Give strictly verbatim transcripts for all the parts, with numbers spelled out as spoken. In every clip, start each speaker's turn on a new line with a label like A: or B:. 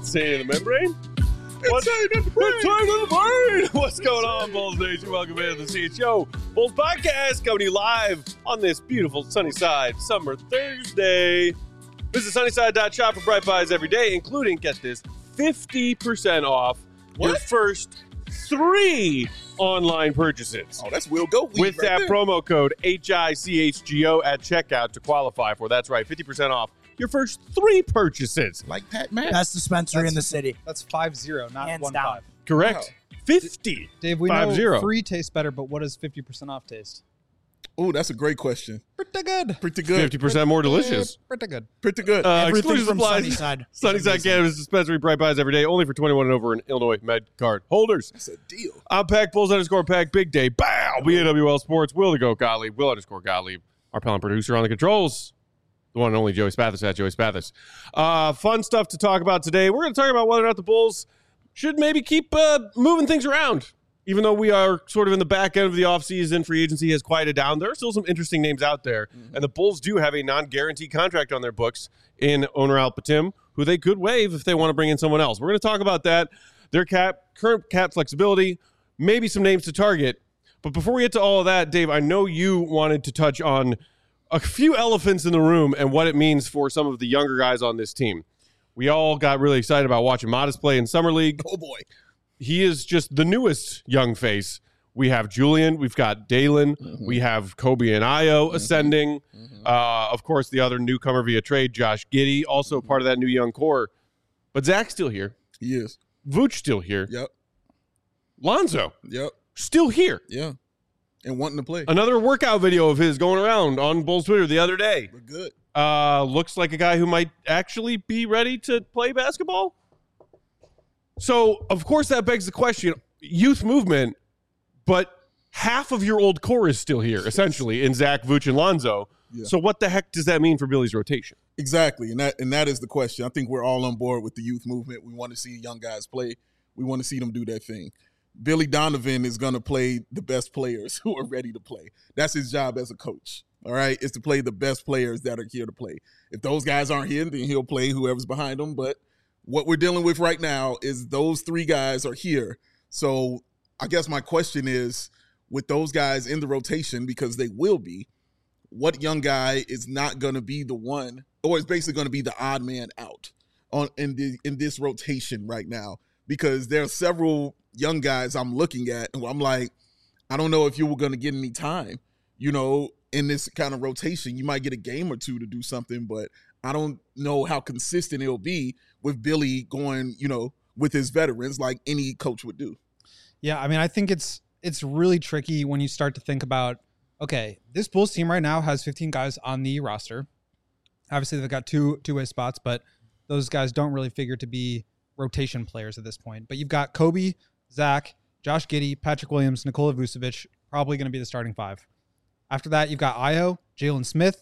A: Insane in the membrane? What's, Insane in the brain. Insane in the brain. What's going on, Bulls Nation? Welcome into the C H O Bulls Podcast, coming to you live on this beautiful Sunnyside Summer Thursday. Visit sunnyside dot shop for bright buys every day, including, get this, fifty percent off what? your first three online purchases.
B: Oh, that's Will Go Weed
A: With
B: right
A: that
B: there.
A: promo code H I C H G O at checkout to qualify for. That's right, fifty percent off your first three purchases.
B: Like Pat Matt.
C: Best dispensary
D: That's-
C: in the city.
D: That's five zero, not
C: Hands
D: one
C: down.
D: five.
A: Correct. fifty.
D: Dave, we
A: Five
D: know
A: zero.
D: free tastes better, but what does fifty percent off taste?
B: Oh, that's a great question.
D: Pretty good.
B: Pretty good.
A: fifty percent more delicious.
D: Pretty good.
B: Pretty good.
A: Uh,
C: Everything
A: exclusive
C: from
A: supplies.
C: Sunnyside.
A: Sunnyside Cannabis Dispensary, bright buys every day, only for twenty-one and over in Illinois Med card holders.
B: That's a deal.
A: I'm Pack Bulls underscore Pack Big Day. Bow! B A W L Sports. Will the Goat Gottlieb. Will underscore Gottlieb. Our pal and producer on the controls. The one and only Joey Spathis at Joey Spathis. Uh, fun stuff to talk about today. We're going to talk about whether or not the Bulls should maybe keep uh, moving things around. Even though we are sort of in the back end of the offseason, free agency has quieted down. There are still some interesting names out there. Mm-hmm. And the Bulls do have a non-guaranteed contract on their books in Owner Al Patim, who they could waive if they want to bring in someone else. We're going to talk about that, their cap, current cap flexibility, maybe some names to target. But before we get to all of that, Dave, I know you wanted to touch on a few elephants in the room and what it means for some of the younger guys on this team. We all got really excited about watching Modest play in Summer League.
B: Oh, boy.
A: He is just the newest young face. We have Julian. We've got Dalen. Mm-hmm. We have Kobe and Io mm-hmm. ascending. Mm-hmm. Uh, of course, the other newcomer via trade, Josh Giddey, also mm-hmm. part of that new young core. But Zach's still here.
B: He is.
A: Vooch still here.
B: Yep.
A: Lonzo.
B: Yep.
A: Still here.
B: Yeah. And wanting to play.
A: Another workout video of his going around on Bulls Twitter the other day.
B: We're good.
A: Uh, looks like a guy who might actually be ready to play basketball. So, of course, that begs the question, youth movement, but half of your old core is still here, essentially, in Zach, Vooch, and Lonzo. Yeah. So what the heck does that mean for Billy's rotation?
B: Exactly, and that and that is the question. I think we're all on board with the youth movement. We want to see young guys play. We want to see them do their thing. Billy Donovan is going to play the best players who are ready to play. That's his job as a coach, all right, is to play the best players that are here to play. If those guys aren't here, then he'll play whoever's behind them, but what we're dealing with right now is those three guys are here. So I guess my question is, with those guys in the rotation, because they will be, what young guy is not going to be the one, or is basically going to be the odd man out on in the in this rotation right now? Because there are several young guys I'm looking at, and I'm like, I don't know if you were going to get any time, you know, in this kind of rotation. You might get a game or two to do something, but I don't know how consistent it'll be with Billy going, you know, with his veterans like any coach would do.
D: Yeah, I mean, I think it's it's really tricky when you start to think about, okay, this Bulls team right now has fifteen guys on the roster. Obviously, they've got two two-way spots, but those guys don't really figure to be rotation players at this point. But you've got Kobe, Zach, Josh Giddey, Patrick Williams, Nikola Vucevic, probably going to be the starting five. After that, you've got Io, Jalen Smith,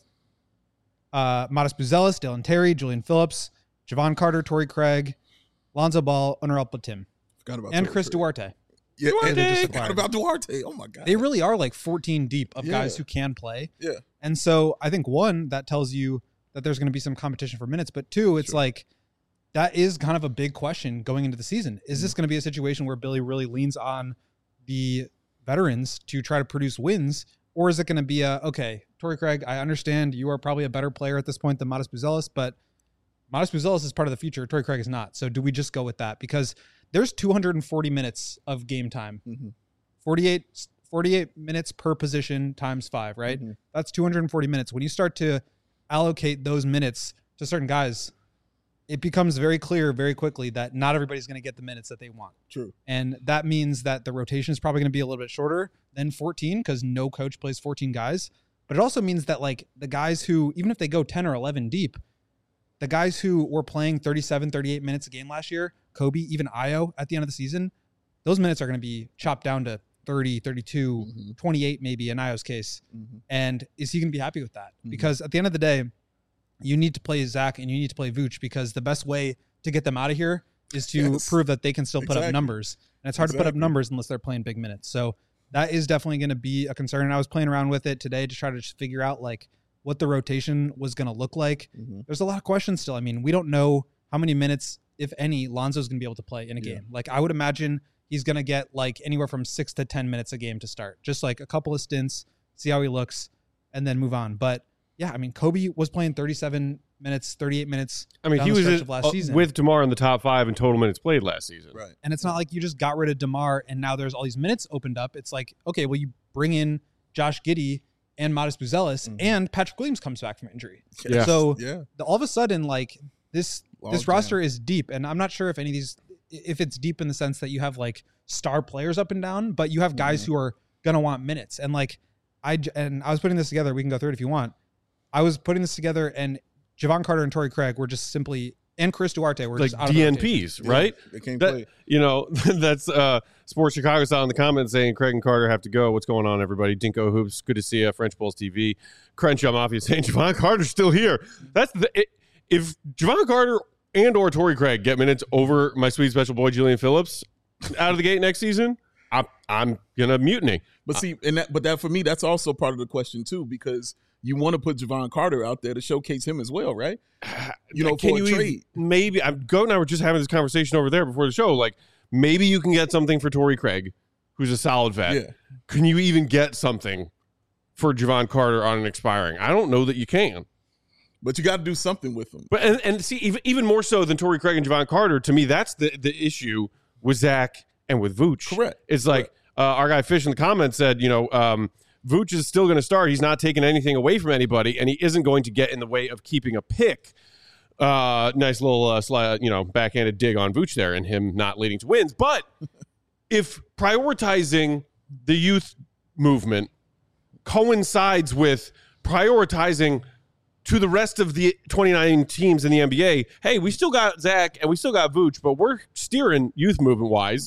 D: Uh, Modest Buzelis, Dylan Terry, Julian Phillips, Javon Carter, Torrey Craig, Lonzo Ball, Owner Al Patim,
B: Forgot about
D: and
B: Torrey
D: Chris
B: Craig.
D: Duarte.
B: Yeah,
D: Duarte.
B: and
D: They just
B: forgot
D: acquired.
B: about Duarte. Oh my God.
D: They really are like fourteen deep of
B: Yeah.
D: guys who can play.
B: Yeah.
D: And so I think, one, that tells you that there's going to be some competition for minutes. But two, it's
B: Sure.
D: like that is kind of a big question going into the season. Is this going to be a situation where Billy really leans on the veterans to try to produce wins? Or is it going to be a, okay, Torrey Craig, I understand you are probably a better player at this point than Modest Buzelis, but Modest Buzelis is part of the future. Torrey Craig is not. So do we just go with that? Because there's two hundred forty minutes of game time.
B: Mm-hmm.
D: forty-eight, forty-eight minutes per position times five, right?
B: Mm-hmm.
D: That's two hundred forty minutes. When you start to allocate those minutes to certain guys, it becomes very clear very quickly that not everybody's going to get the minutes that they want.
B: True.
D: And that means that the rotation is probably going to be a little bit shorter than fourteen because no coach plays fourteen guys. But it also means that like the guys who, even if they go ten or eleven deep, the guys who were playing thirty-seven, thirty-eight minutes a game last year, Kobe, even Io at the end of the season, those minutes are going to be chopped down to thirty, thirty-two,
B: Mm-hmm.
D: twenty-eight maybe in Io's case.
B: Mm-hmm.
D: And is he going to be happy with that?
B: Mm-hmm.
D: Because at the end of the day, you need to play Zach and you need to play Vooch because the best way to get them out of here is to
B: Yes.
D: prove that they can still put
B: Exactly.
D: up numbers. And it's hard to put up
B: Exactly.
D: numbers unless they're playing big minutes. So that is definitely going to be a concern. And I was playing around with it today to try to just figure out like what the rotation was going to look like.
B: Mm-hmm.
D: There's a lot of questions still. I mean, we don't know how many minutes if any, Lonzo's going to be able to play in a
B: Yeah.
D: game. Like I would imagine he's going to get like anywhere from six to ten minutes a game to start, just like a couple of stints, see how he looks, and then move on. But yeah, I mean, Kobe was playing thirty-seven minutes, thirty-eight minutes.
A: I mean,
D: down
A: he
D: the
A: was
D: stretch
A: in-
D: of last
A: uh,
D: season.
A: with DeMar in the top five in total minutes played last season.
B: Right.
D: And it's not like you just got rid of DeMar and now there's all these minutes opened up. It's like, okay, well, you bring in Josh Giddey and Modest Buzelis,
B: Mhm.
D: and Patrick Williams comes back from injury.
A: Yeah.
D: So
B: Yeah.
D: the, all of a sudden, like this,
B: Log
D: this
B: jam.
D: roster is deep, and I'm not sure if any of these, if it's deep in the sense that you have like star players up and down, but you have guys
B: Mhm.
D: who are gonna want minutes. And like I j- and I was putting this together. We can go through it if you want. I was putting this together, and Javon Carter and Torrey Craig were just simply, and Chris Duarte were
A: Like
D: just out of the rotation.
A: D N Ps,
B: Yeah,
A: right?
B: They can't
A: That-
B: play.
A: You know, that's uh, Sports Chicago style in the comments saying Craig and Carter have to go. What's going on, everybody? Dinko Hoops, good to see you. French Bulls T V. Crenshaw Mafia saying Javon Carter's still here. That's the it, if Javon Carter and or Torrey Craig get minutes over my sweet special boy Julian Phillips out of the gate next season, I'm I'm gonna mutiny.
B: But see, and that, but that for me, that's also part of the question too, because you want to put Javon Carter out there to showcase him as well, right? You know,
A: Can
B: for
A: you
B: a
A: even-
B: trade.
A: maybe I'm Goat and I were just having this conversation over there before the show. Like maybe you can get something for Torrey Craig, who's a solid vet.
B: Yeah.
A: Can you even get something for Javon Carter on an expiring? I don't know that you can.
B: But you got to do something with him.
A: But and, and see, even, even more so than Torrey Craig and Javon Carter, to me, that's the, the issue with Zach and with Vooch.
B: Correct.
A: It's like uh, our guy Fish in the comments said, you know, um, Vooch is still going to start. He's not taking anything away from anybody, and he isn't going to get in the way of keeping a pick. Uh, nice little, uh, sli- you know, backhanded dig on Vooch there and him not leading to wins. But if prioritizing the youth movement coincides with prioritizing to the rest of the twenty-nine teams in the N B A, hey, we still got Zach and we still got Vooch, but we're steering youth movement wise.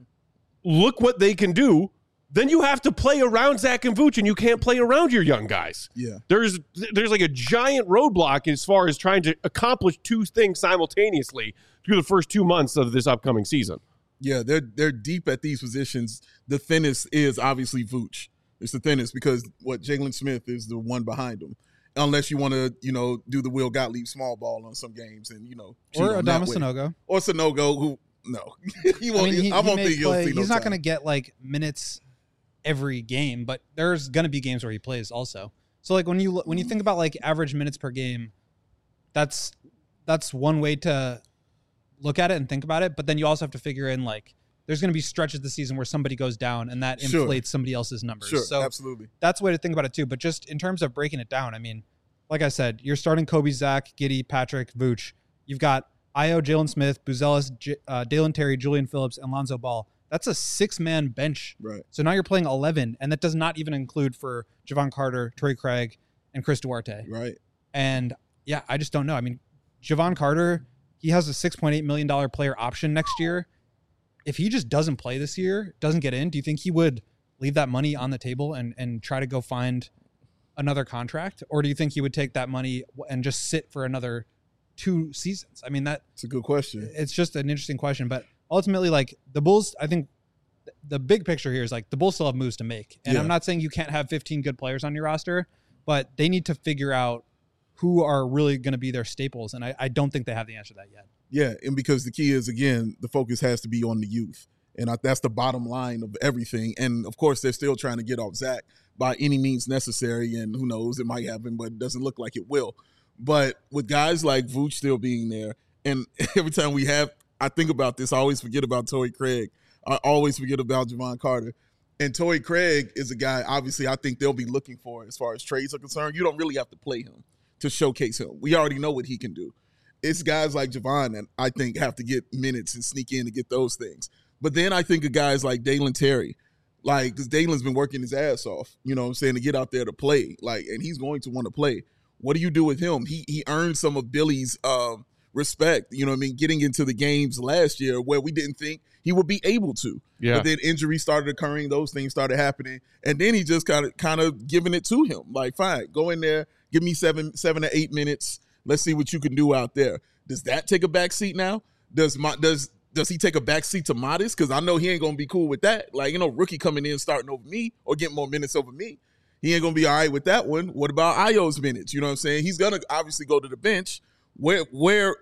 A: Look what they can do. Then you have to play around Zach and Vooch, and you can't play around your young guys.
B: Yeah.
A: There's there's like a giant roadblock as far as trying to accomplish two things simultaneously through the first two months of this upcoming season.
B: Yeah, they're they're deep at these positions. The thinnest is obviously Vooch. It's the thinnest because what Jalen Smith is the one behind him. Unless you want to, you know, do the Will Gottlieb small ball on some games and, you know, cheat
D: Or
B: on that
D: Adama
B: way.
D: Sanogo.
B: Or Sanogo, who no, he
D: I
B: won't.
D: mean, he,
B: I
D: he
B: won't
D: may
B: think he'll
D: play,
B: see no
D: he's not
B: time.
D: going to get like minutes every game, but there's going to be games where he plays also. So like when you when you think about like average minutes per game, that's that's one way to look at it and think about it. But then you also have to figure in like there's going to be stretches this season where somebody goes down and that
B: Sure.
D: inflates somebody else's numbers.
B: Sure,
D: so
B: absolutely.
D: that's a way to think about it too. But just in terms of breaking it down, I mean, like I said, you're starting Kobe, Zach, Giddey, Patrick, Vooch. You've got Io, Jalen Smith, Buzelis, J- uh, Dalen Terry, Julian Phillips, and Lonzo Ball. That's a six-man bench.
B: Right.
D: So now you're playing eleven, and that does not even include for Javon Carter, Torrey Craig, and Chris Duarte.
B: Right.
D: And yeah, I just don't know. I mean, Javon Carter, he has a six point eight million dollars player option next year. If he just doesn't play this year, doesn't get in, do you think he would leave that money on the table and, and try to go find another contract? Or do you think he would take that money and just sit for another two seasons? I mean, that
B: It's a good question.
D: it's just an interesting question. But ultimately, like the Bulls, I think the big picture here is like the Bulls still have moves to make. And
B: Yeah.
D: I'm not saying you can't have fifteen good players on your roster, but they need to figure out who are really going to be their staples. And I, I don't think they have the answer to that yet.
B: Yeah, and because the key is, again, the focus has to be on the youth. And I, that's the bottom line of everything. And, of course, they're still trying to get off Zach by any means necessary. And who knows, it might happen, but it doesn't look like it will. But with guys like Vooch still being there, and every time we have, I think about this, I always forget about Torrey Craig. I always forget about Javon Carter. And Torrey Craig is a guy, obviously, I think they'll be looking for as far as trades are concerned. You don't really have to play him to showcase him. We already know what he can do. It's guys like Javon that I think have to get minutes and sneak in to get those things. But then I think of guys like Dalen Terry, like, because Dalen's been working his ass off, you know what I'm saying, to get out there to play. Like, and he's going to want to play. What do you do with him? He he earned some of Billy's um, respect, you know what I mean, getting into the games last year where we didn't think he would be able to.
A: Yeah.
B: But then injuries started occurring, those things started happening, and then he just kind of kind of giving it to him. Like, fine, go in there, give me seven seven to eight minutes. Let's see what you can do out there. Does that take a back seat now? Does my does does he take a back seat to Modest? Because I know he ain't gonna be cool with that. Like, you know, rookie coming in starting over me or getting more minutes over me. He ain't gonna be all right with that one. What about Io's minutes? You know what I'm saying? He's gonna obviously go to the bench. Where where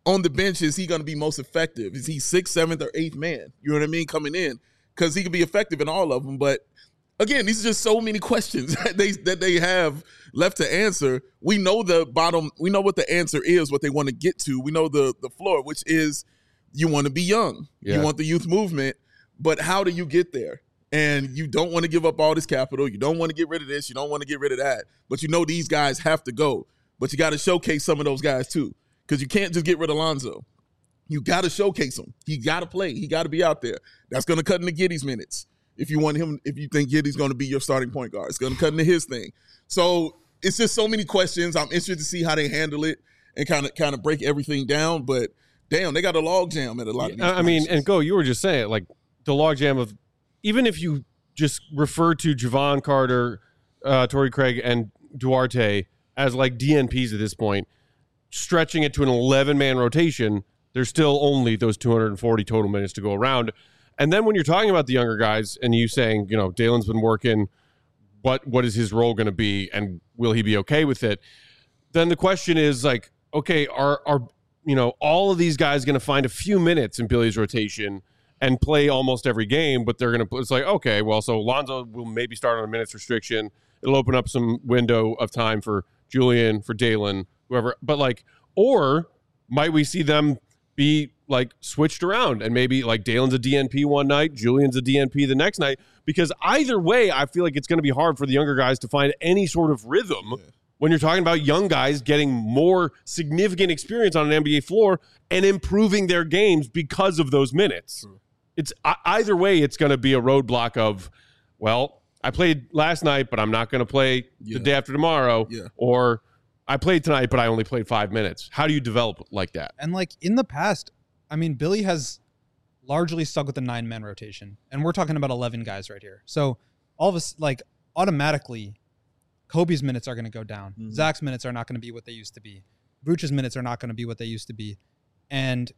B: on the bench is he going to be most effective? Is he sixth, seventh, or eighth man? You know what I mean? Coming in, because he can be effective in all of them. But again, these are just so many questions that they that they have left to answer. We know the bottom. We know what the answer is, what they want to get to. We know the the floor, which is you want to be young. Yeah. You want the youth movement. But how do you get there? And you don't want to give up all this capital. You don't want to get rid of this. You don't want to get rid of that. But you know these guys have to go. But you got to showcase some of those guys too, because you can't just get rid of Lonzo. You got to showcase him. He got to play. He got to be out there. That's going to cut into Giddey's minutes. If you want him, if you think Giddey's going to be your starting point guard, it's going to cut into his thing. So it's just so many questions. I'm interested to see how they handle it and kind of kind of break everything down. But damn, they got a log jam at a lot of these
A: I mean, and go, you were just saying, like, the logjam of, even if you just refer to Javon Carter, uh, Torrey Craig, and Duarte as like D N Ps at this point, stretching it to an eleven-man rotation, there's still only those two hundred forty total minutes to go around. And then when you're talking about the younger guys and you saying, you know, Dalen's been working, what what is his role going to be, and will he be okay with it? Then the question is, like, okay, are are you know all of these guys going to find a few minutes in Billy's rotation and play almost every game, but they're going to, it's like, okay, well, so Lonzo will maybe start on a minutes restriction. It'll open up some window of time for Julian, for Dalen, whoever. But like, or might we see them be like switched around and maybe like Dalen's a D N P one night, Julian's a D N P the next night? Because either way, I feel like it's going to be hard for the younger guys to find any sort of rhythm yeah. when you're talking about young guys getting more significant experience on an N B A floor and improving their games because of those minutes. True. It's either way, it's going to be a roadblock of, well, I played last night, but I'm not going to play yeah. the day after tomorrow. Yeah. Or I played tonight, but I only played five minutes. How do you develop like that?
D: And like in the past, I mean, Billy has largely stuck with the nine-man rotation. And we're talking about eleven guys right here. So all of us, like automatically, Kobe's minutes are going to go down. Mm-hmm. Zach's minutes are not going to be what they used to be. Vooch's minutes are not going to be what they used to be. And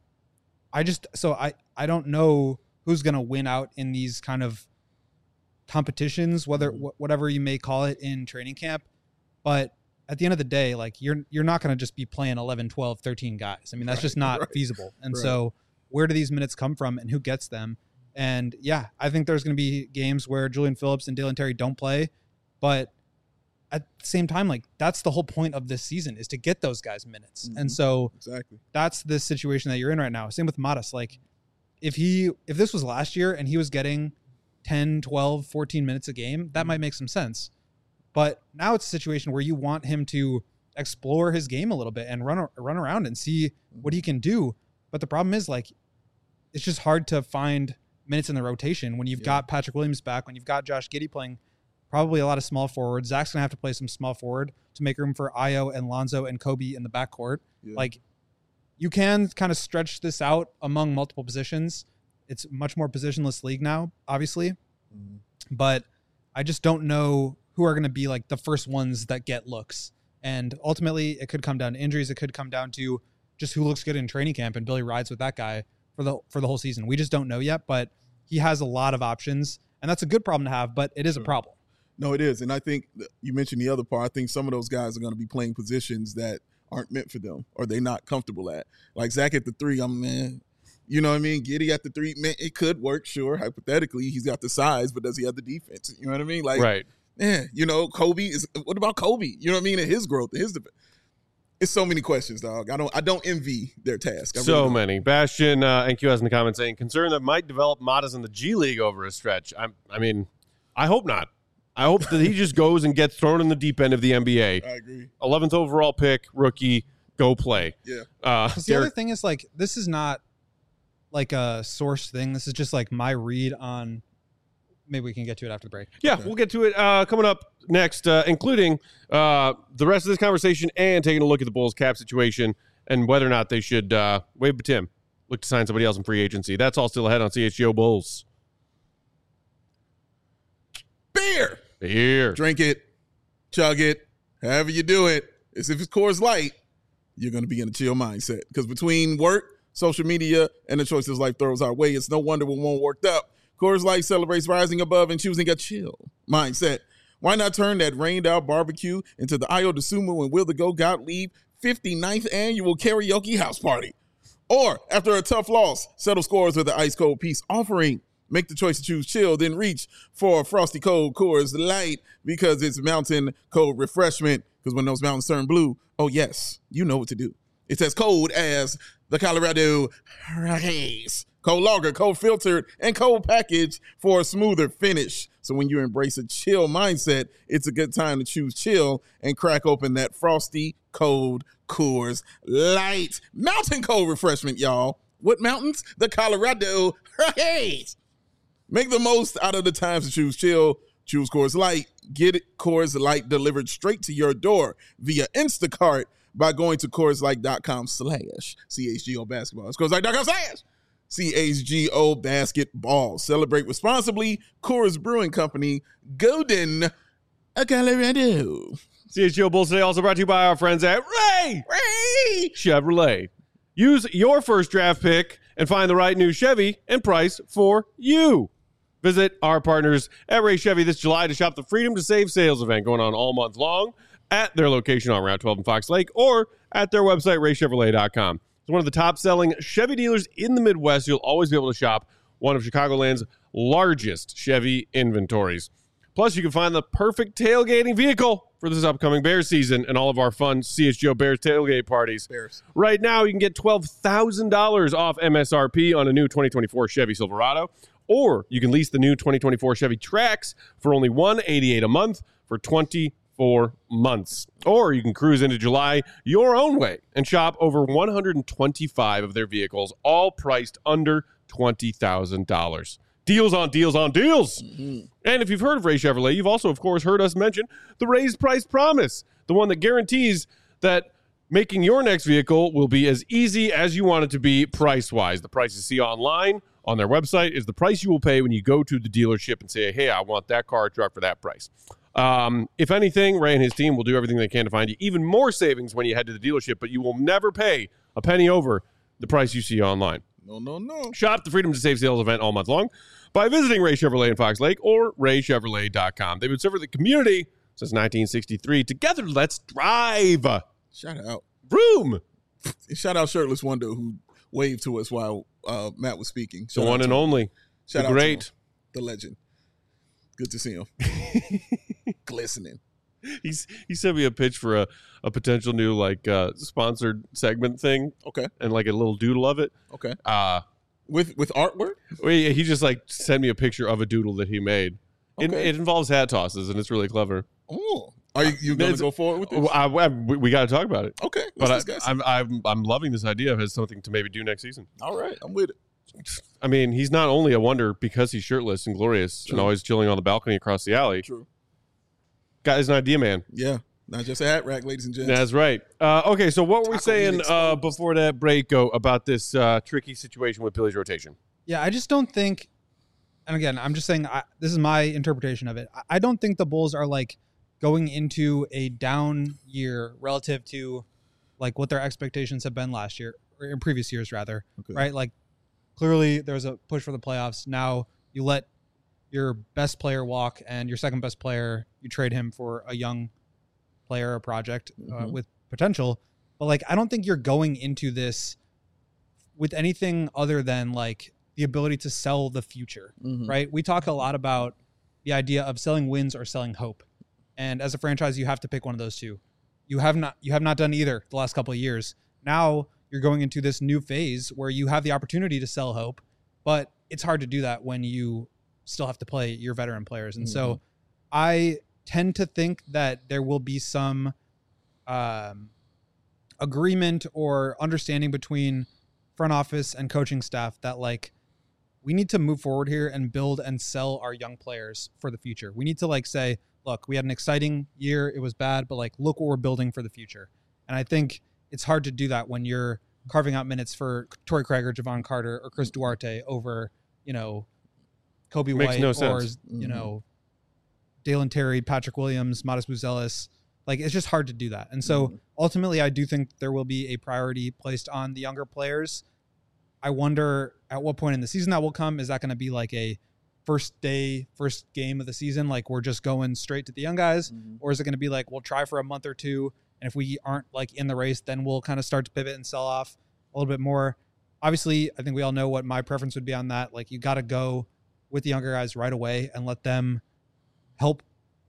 D: I just, so I, I don't know who's going to win out in these kind of competitions, whether wh- whatever you may call it in training camp. But at the end of the day, like you're you're not going to just be playing eleven, twelve, thirteen guys. I mean, that's right, just not right. feasible. And right. so where do these minutes come from and who gets them? And yeah, I think there's going to be games where Julian Phillips and Dalen Terry don't play. But at the same time, like that's the whole point of this season is to get those guys minutes. Mm-hmm. And so
B: exactly
D: that's the situation that you're in right now. Same with Matas. Like if he, if this was last year and he was getting ten, twelve, fourteen minutes a game, that mm-hmm. might make some sense. But now it's a situation where you want him to explore his game a little bit and run, run around and see mm-hmm. what he can do. But the problem is like, it's just hard to find minutes in the rotation when you've yeah. got Patrick Williams back, when you've got Josh Giddey playing probably a lot of small forward. Zach's going to have to play some small forward to make room for Ayo and Lonzo and Kobe in the backcourt. Yeah. Like, you can kind of stretch this out among multiple positions. It's a much more positionless league now, obviously. Mm-hmm. But I just don't know who are going to be like the first ones that get looks. And ultimately, it could come down to injuries. It could come down to just who looks good in training camp, and Billy rides with that guy for the for the whole season. We just don't know yet, but he has a lot of options, and that's a good problem to have, but it is
B: sure.
D: a problem.
B: No, it is. And I think you mentioned the other part. I think some of those guys are going to be playing positions that aren't meant for them or they're not comfortable at. Like Zach at the three, I'm man, you know what I mean? Giddey at the three, man, it could work, sure. Hypothetically, he's got the size, but does he have the defense? You know what I mean? Like,
A: right.
B: Yeah, you know, Kobe is. What about Kobe? You know what I mean? And his growth, his. It's so many questions, dog. I don't. I don't envy their task. I
A: so
B: really
A: many. Bastian uh, N Q has in the comments saying concern that might develop Matas in the G League over a stretch. I. I mean, I hope not. I hope that he just goes and gets thrown in the deep end of the N B A.
B: I agree.
A: eleventh overall pick, rookie, go play.
B: Yeah.
A: Uh,
D: the other thing is like this is not like a source thing. This is just like my read on. Maybe we can get to it after the break.
A: Yeah,
D: okay.
A: We'll get to it uh, coming up next, uh, including uh, the rest of this conversation and taking a look at the Bulls cap situation and whether or not they should, uh, wave to Tim, look to sign somebody else in free agency. That's all still ahead on C H G O Bulls.
B: Beer.
A: Beer.
B: Drink it. Chug it. However you do it. As if it's Coors Light, you're going to be in a chill mindset. Because between work, social media, and the choices life throws our way, it's no wonder we won't worked up. Coors Light celebrates rising above and choosing a chill mindset. Why not turn that rained-out barbecue into the Ayo DeSumo and Will the Go Gottlieb fifty-ninth annual karaoke house party? Or after a tough loss, settle scores with an ice cold peace offering. Make the choice to choose chill, then reach for a frosty cold Coors Light because it's mountain cold refreshment. Because when those mountains turn blue, oh yes, you know what to do. It's as cold as the Colorado Rockies. Cold lager, cold filtered, and cold packaged for a smoother finish. So when you embrace a chill mindset, it's a good time to choose chill and crack open that frosty cold Coors Light. Mountain cold refreshment, y'all. What mountains? The Colorado Rockies. Make the most out of the times to choose chill. Choose Coors Light. Get it Coors Light delivered straight to your door via Instacart by going to CoorsLight.com slash CHGO basketball. It's CoorsLight.com slash C H G O basketball. Celebrate responsibly. Coors Brewing Company, Golden, Colorado.
A: C H G O Bulls today also brought to you by our friends at Ray, Ray Chevrolet. Use your first draft pick and find the right new Chevy and price for you. Visit our partners at Ray Chevy this July to shop the Freedom to Save sales event going on all month long at their location on Route twelve in Fox Lake or at their website, ray chevrolet dot com. It's one of the top-selling Chevy dealers in the Midwest. You'll always be able to shop one of Chicagoland's largest Chevy inventories. Plus, you can find the perfect tailgating vehicle for this upcoming Bears season and all of our fun C H G O Bears tailgate parties.
B: Bears.
A: Right now, you can get twelve thousand dollars off M S R P on a new twenty twenty-four Chevy Silverado, or you can lease the new twenty twenty-four Chevy Trax for only one hundred eighty-eight dollars a month for twenty-four months. Or you can cruise into July your own way and shop over one hundred twenty-five of their vehicles, all priced under twenty thousand dollars. Deals on deals on deals. Mm-hmm. And if you've heard of Ray Chevrolet, you've also, of course, heard us mention the raised price promise, the one that guarantees that making your next vehicle will be as easy as you want it to be price-wise. The price you see online on their website is the price you will pay when you go to the dealership and say, hey, I want that car or truck for that price. Um, if anything, Ray and his team will do everything they can to find you even more savings when you head to the dealership, but you will never pay a penny over the price you see online.
B: No, no, no.
A: Shop the Freedom to Save sales event all month long by visiting Ray Chevrolet in Fox Lake or ray chevrolet dot com. They've been serving the community since nineteen sixty-three. Together, let's drive.
B: Shout out.
A: Vroom.
B: Shout out Shirtless Wonder who waved to us while uh, Matt was speaking. Shout
A: the one and
B: him.
A: only.
B: Shout
A: the
B: out
A: great.
B: To him, the legend. Good to see him. Glistening.
A: He's he sent me a pitch for a, a potential new like uh, sponsored segment thing.
B: Okay.
A: And like a little doodle of it.
B: Okay.
A: Uh
B: with with artwork?
A: He he just like sent me a picture of a doodle that he made. It,
B: Okay.
A: it involves hat tosses and it's really clever.
B: Oh. Are you, you going to go forward with this?
A: I, I, we we got to talk about it.
B: Okay.
A: But
B: Let's
A: I,
B: discuss it.
A: I'm I'm I'm loving this idea of it as something to maybe do next season.
B: All right. I'm with it.
A: I mean, he's not only a wonder because he's shirtless and glorious
B: True.
A: and always chilling on the balcony across the alley.
B: True.
A: Guy's an idea man.
B: Yeah. Not just a hat rack, ladies and gents.
A: That's right. Uh, okay, so what were we
B: Taco
A: saying
B: meat
A: uh,
B: exposed.
A: before that break go about this uh, tricky situation with Billy's rotation?
D: Yeah, I just don't think, and again, I'm just saying I, this is my interpretation of it. I, I don't think the Bulls are like going into a down year relative to like what their expectations have been last year or in previous years, rather.
B: Okay.
D: Right? Like clearly there was a push for the playoffs. Now you let your best player walk and your second best player, you trade him for a young player, a project uh,
B: Mhm.
D: with potential. But like, I don't think you're going into this with anything other than like the ability to sell the future,
B: Mhm.
D: right? We talk a lot about the idea of selling wins or selling hope. And as a franchise, you have to pick one of those two. You have not, you have not done either the last couple of years. Now you're going into this new phase where you have the opportunity to sell hope, but it's hard to do that when you still have to play your veteran players. And so I tend to think that there will be some um, agreement or understanding between front office and coaching staff that like we need to move forward here and build and sell our young players for the future. We need to like say, look, we had an exciting year. It was bad, but like, look what we're building for the future. And I think it's hard to do that when you're carving out minutes for Torrey Craig or Javon Carter or Chris Duarte over, you know, Kobe
A: Makes
D: White
A: no
D: or,
A: sense.
D: you
B: Mhm.
D: know, Dalen Terry, Patrick Williams, Modest Buzelis. Like, it's just hard to do that. And so
B: Mhm.
D: ultimately, I do think there will be a priority placed on the younger players. I wonder at what point in the season that will come. Is that going to be like a first day, first game of the season? Like we're just going straight to the young guys?
B: Mhm.
D: Or is it going to be like, we'll try for a month or two. And if we aren't like in the race, then we'll kind of start to pivot and sell off a little bit more. obviously, I think we all know what my preference would be on that. Like, you got to go with the younger guys right away and let them help,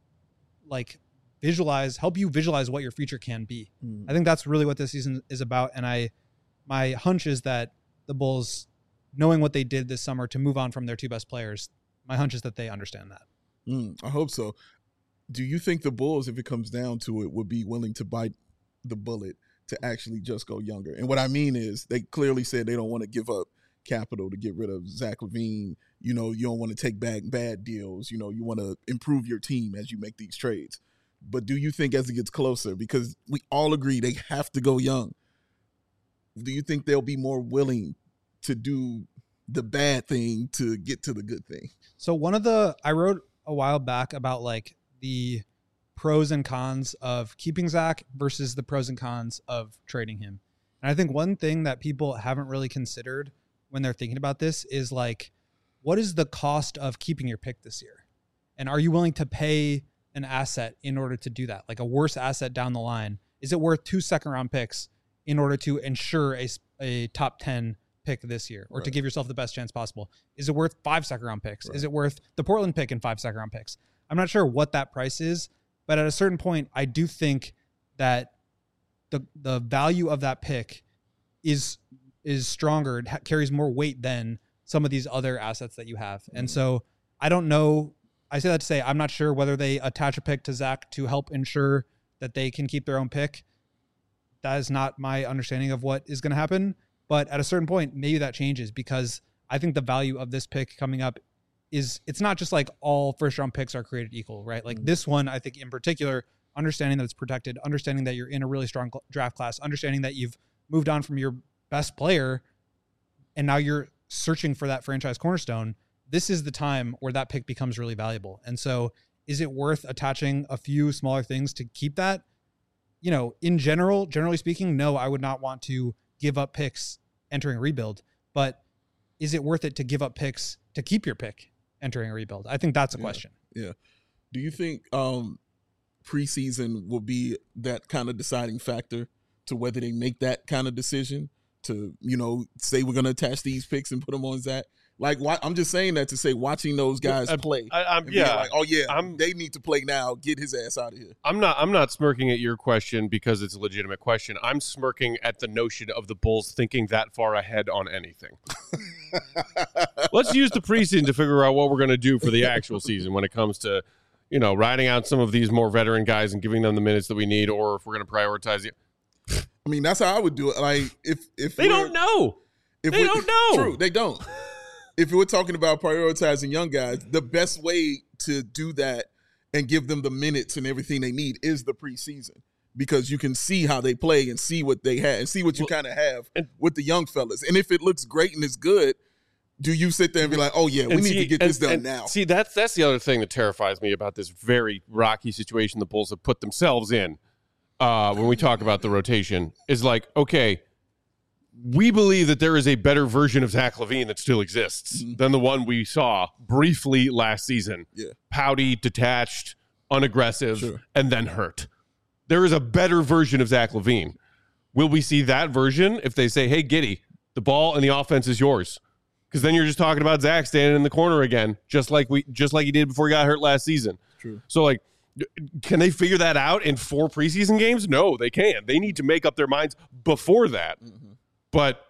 D: like, visualize, help you visualize what your future can be. Mm. I think that's really what this season is about. And I, my hunch is that the Bulls, knowing what they did this summer to move on from their two best players, my hunch is that they understand that.
B: Mm, I hope so. Do you think the Bulls, if it comes down to it, would be willing to bite the bullet to actually just go younger? And what I mean is they clearly said they don't want to give up capital to get rid of Zach LaVine. You know, you don't want to take back bad deals. You know, you want to improve your team as you make these trades. But do you think as it gets closer, because we all agree they have to go young, do you think they'll be more willing to do the bad thing to get to the good thing?
D: So one of the, I wrote a while back about like the pros and cons of keeping Zach versus the pros and cons of trading him. And I think one thing that people haven't really considered when they're thinking about this is like, what is the cost of keeping your pick this year? And are you willing to pay an asset in order to do that? Like a worse asset down the line. Is it worth two second round picks in order to ensure a, a top ten pick this year, or right. to give yourself the best chance possible? Is it worth five second round picks? Right. Is it worth the Portland pick and five second round picks? I'm not sure what that price is, but at a certain point, I do think that the the value of that pick is is stronger, it ha- carries more weight than some of these other assets that you have. Mm-hmm. And so I don't know. I say that to say I'm not sure whether they attach a pick to Zach to help ensure that they can keep their own pick. That is not my understanding of what is going to happen. But at a certain point, maybe that changes, because I think the value of this pick coming up is, it's not just like all first round picks are created equal, right? Like mm-hmm. this one, I think in particular, understanding that it's protected, understanding that you're in a really strong draft class, understanding that you've moved on from your best player and now you're searching for that franchise cornerstone. This is the time where that pick becomes really valuable. And so is it worth attaching a few smaller things to keep that? You know, in general, generally speaking, no, I would not want to give up picks entering a rebuild, but is it worth it to give up picks to keep your pick entering a rebuild? I think that's a
B: yeah,
D: question.
B: Yeah. Do you think um, preseason will be that kind of deciding factor to whether they make that kind of decision to, you know, say we're going to attach these picks and put them on Zach? Like, why, I'm just saying that to say watching those guys
A: I,
B: play.
A: I, I'm, yeah.
B: Like, oh, yeah,
A: I'm,
B: they need to play now. Get his ass out of here.
A: I'm not I'm not smirking at your question because it's a legitimate question. I'm smirking at the notion of the Bulls thinking that far ahead on anything. Let's use the preseason to figure out what we're going to do for the actual season when it comes to, you know, riding out some of these more veteran guys and giving them the minutes that we need, or if we're going to prioritize it.
B: I mean, that's how I would do it. Like, if if
A: they don't know. If they don't know.
B: True, they don't. If we're talking about prioritizing young guys, the best way to do that and give them the minutes and everything they need is the preseason, because you can see how they play and see what they have and see what you well, kind of have and, with the young fellas. And if it looks great and it's good, do you sit there and be like, oh, yeah, we need
A: see,
B: to get
A: and,
B: this done
A: and
B: now?
A: See, that's that's the other thing that terrifies me about this very rocky situation the Bulls have put themselves in uh, when we talk about the rotation is like, okay, we believe that there is a better version of Zach LaVine that still exists mm-hmm. than the one we saw briefly last season.
B: Yeah.
A: Pouty, detached, unaggressive,
B: sure.
A: and then hurt. There is a better version of Zach LaVine. Will we see that version if they say, hey, Giddy, the ball and the offense is yours? Because then you're just talking about Zach standing in the corner again, just like we just like he did before he got hurt last season.
B: True.
A: So, like, can they figure that out in four preseason games? No, they can't. They need to make up their minds before that. Mm-hmm. But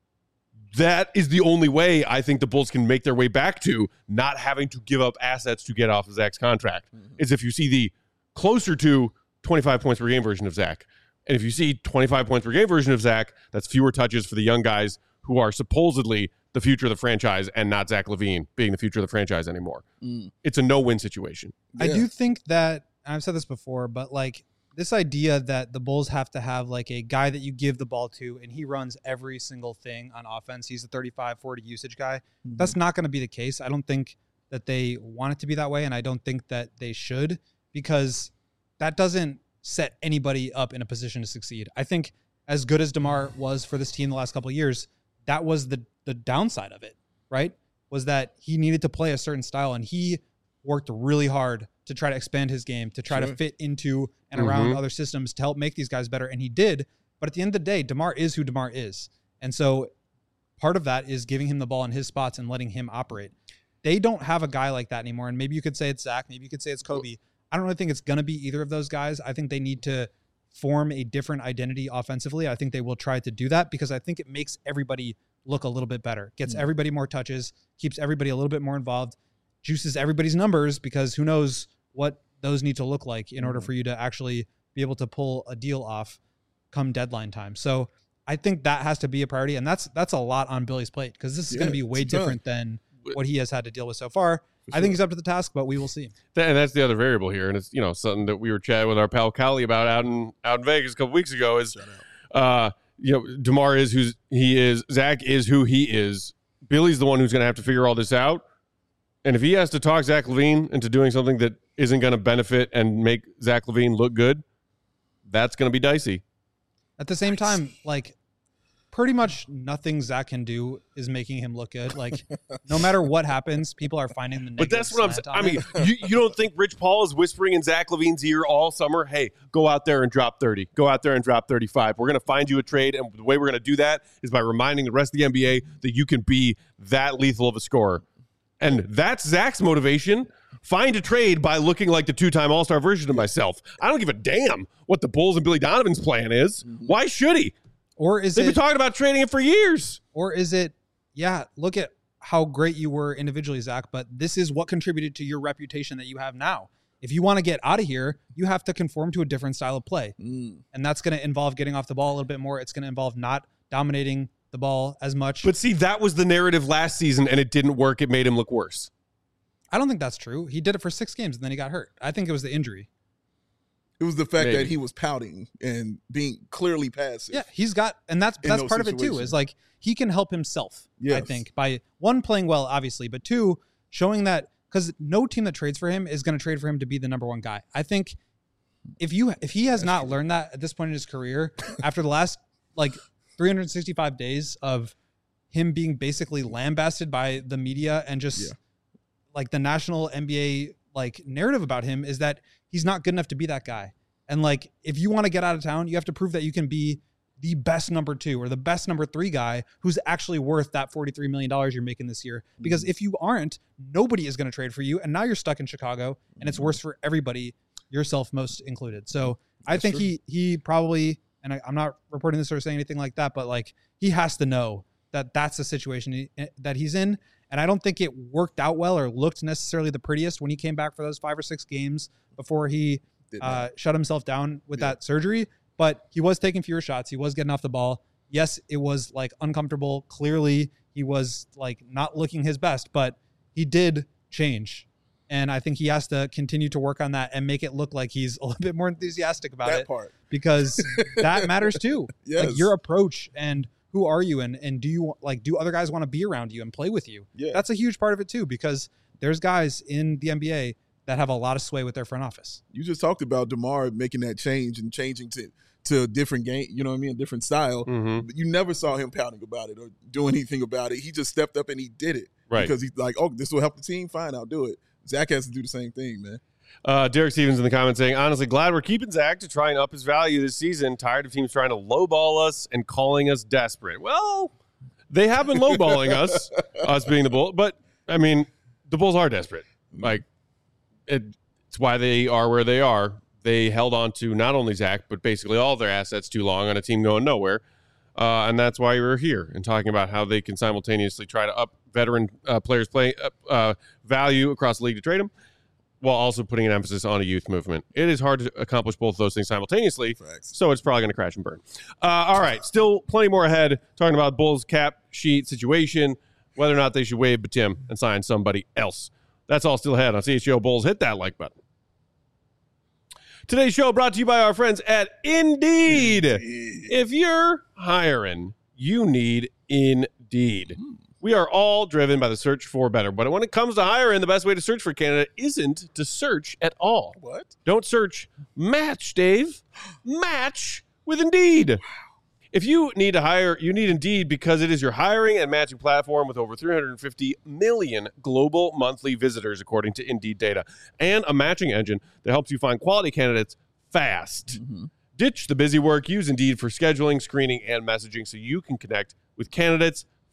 A: that is the only way I think the Bulls can make their way back to not having to give up assets to get off of Zach's contract, mm-hmm. is if you see the closer to twenty-five points per game version of Zach. And if you see twenty-five points per game version of Zach, that's fewer touches for the young guys who are supposedly the future of the franchise and not Zach LaVine being the future of the franchise anymore. Mm. It's a no-win situation.
D: Yeah. I do think that, I've said this before, but like, this idea that the Bulls have to have like a guy that you give the ball to and he runs every single thing on offense, he's a thirty-five, forty usage guy. Mm-hmm. That's not going to be the case. I don't think that they want it to be that way, and I don't think that they should, because that doesn't set anybody up in a position to succeed. I think as good as DeMar was for this team the last couple of years, that was the the downside of it, right? Was that he needed to play a certain style, and he worked really hard to try to expand his game, to try sure. to fit into and mm-hmm. around other systems to help make these guys better. And he did. But at the end of the day, DeMar is who DeMar is. And so part of that is giving him the ball in his spots and letting him operate. They don't have a guy like that anymore. And maybe you could say it's Zach. Maybe you could say it's Kobe. I don't really think it's going to be either of those guys. I think they need to form a different identity offensively. I think they will try to do that because I think it makes everybody look a little bit better, gets mm. everybody more touches, keeps everybody a little bit more involved, juices everybody's numbers because who knows what those need to look like in order for you to actually be able to pull a deal off come deadline time. So I think that has to be a priority. And that's, that's a lot on Billy's plate because this is yeah, going to be way different than what he has had to deal with so far. Sure. I think he's up to the task, but we will see.
A: And that's the other variable here. And it's, you know, something that we were chatting with our pal Callie about out in, out in Vegas a couple weeks ago is, uh, you know, DeMar is who he is. Zach is who he is. Billy's the one who's going to have to figure all this out. And if he has to talk Zach LaVine into doing something that isn't going to benefit and make Zach LaVine look good, that's going to be dicey.
D: At the same nice. time, like, pretty much nothing Zach can do is making him look good. Like, no matter what happens, people are finding the negative.
A: But that's what I'm saying. I mean, you, you don't think Rich Paul is whispering in Zach LaVine's ear all summer, hey, go out there and drop thirty. Go out there and drop thirty-five. We're going to find you a trade, and the way we're going to do that is by reminding the rest of the N B A that you can be that lethal of a scorer. And that's Zach's motivation. Find a trade by looking like the two-time All-Star version of myself. I don't give a damn what the Bulls and Billy Donovan's plan is. Why should he?
D: Or is
A: They've
D: it,
A: been talking about trading him for years.
D: Or is it, yeah, look at how great you were individually, Zach, but this is what contributed to your reputation that you have now. If you want to get out of here, you have to conform to a different style of play. Mm. And that's going to involve getting off the ball a little bit more. It's going to involve not dominating the ball as much.
A: But see, that was the narrative last season, and it didn't work. It made him look worse.
D: I don't think that's true. He did it for six games, and then he got hurt. I think it was the injury.
B: It was the fact
A: Maybe.
B: that he was pouting and being clearly passive.
D: Yeah, he's got, and that's that's part of it too, is like he can help himself, yes. I think, by one, playing well, obviously, but two, showing that, because no team that trades for him is going to trade for him to be the number one guy. I think if you if he has that's not true. learned that at this point in his career, after the last like three hundred sixty-five days of him being basically lambasted by the media and just yeah. like the national N B A like narrative about him is that he's not good enough to be that guy. And like, if you want to get out of town, you have to prove that you can be the best number two or the best number three guy who's actually worth that forty-three million dollars you're making this year. Because if you aren't, nobody is going to trade for you. And now you're stuck in Chicago and it's worse for everybody, yourself most included. So That's I think true. he, he probably, and I, I'm not reporting this or saying anything like that, but like he has to know that that's the situation he, that he's in. And I don't think it worked out well or looked necessarily the prettiest when he came back for those five or six games before he uh, shut himself down with yeah. that surgery. But he was taking fewer shots. He was getting off the ball. Yes, it was like uncomfortable. Clearly, he was like not looking his best, but he did change. And I think he has to continue to work on that and make it look like he's a little bit more enthusiastic about
B: that
D: it.
B: Part.
D: Because that matters too.
B: Yes.
D: Like your approach and who are you, and and do you like do other guys want to be around you and play with you?
B: Yeah.
D: That's a huge part of it too, because there's guys in the N B A that have a lot of sway with their front office.
B: You just talked about DeMar making that change and changing to to a different game, you know what I mean, a different style.
A: Mm-hmm.
B: But you never saw him pouting about it or doing anything about it. He just stepped up and he did it.
A: Right.
B: Because he's like, oh, this will help the team? Fine, I'll do it. Zach has to do the same thing, man.
A: Uh, Derek Stevens in the comments saying, honestly, glad we're keeping Zach to try and up his value this season. Tired of teams trying to lowball us and calling us desperate. Well, they have been lowballing us, us being the Bulls. But, I mean, the Bulls are desperate. Like, it, it's why they are where they are. They held on to not only Zach, but basically all their assets too long on a team going nowhere. Uh, and that's why we're here and talking about how they can simultaneously try to up veteran uh, players' play uh, value across the league to trade them, while also putting an emphasis on a youth movement. It is hard to accomplish both of those things simultaneously,
B: Facts.
A: So it's probably going to crash and burn. Uh, all right, still plenty more ahead, talking about Bulls cap sheet situation, whether or not they should waive Batum and sign somebody else. That's all still ahead on C H G O Bulls. Hit that like button. Today's show brought to you by our friends at Indeed. Indeed. If you're hiring, you need Indeed. We are all driven by the search for better. But when it comes to hiring, the best way to search for a candidate isn't to search at all.
B: What?
A: Don't search. Match, Dave. Match with Indeed. If you need to hire, you need Indeed because it is your hiring and matching platform with over three hundred fifty million global monthly visitors, according to Indeed data, and a matching engine that helps you find quality candidates fast. Mm-hmm. Ditch the busy work. Use Indeed for scheduling, screening, and messaging so you can connect with candidates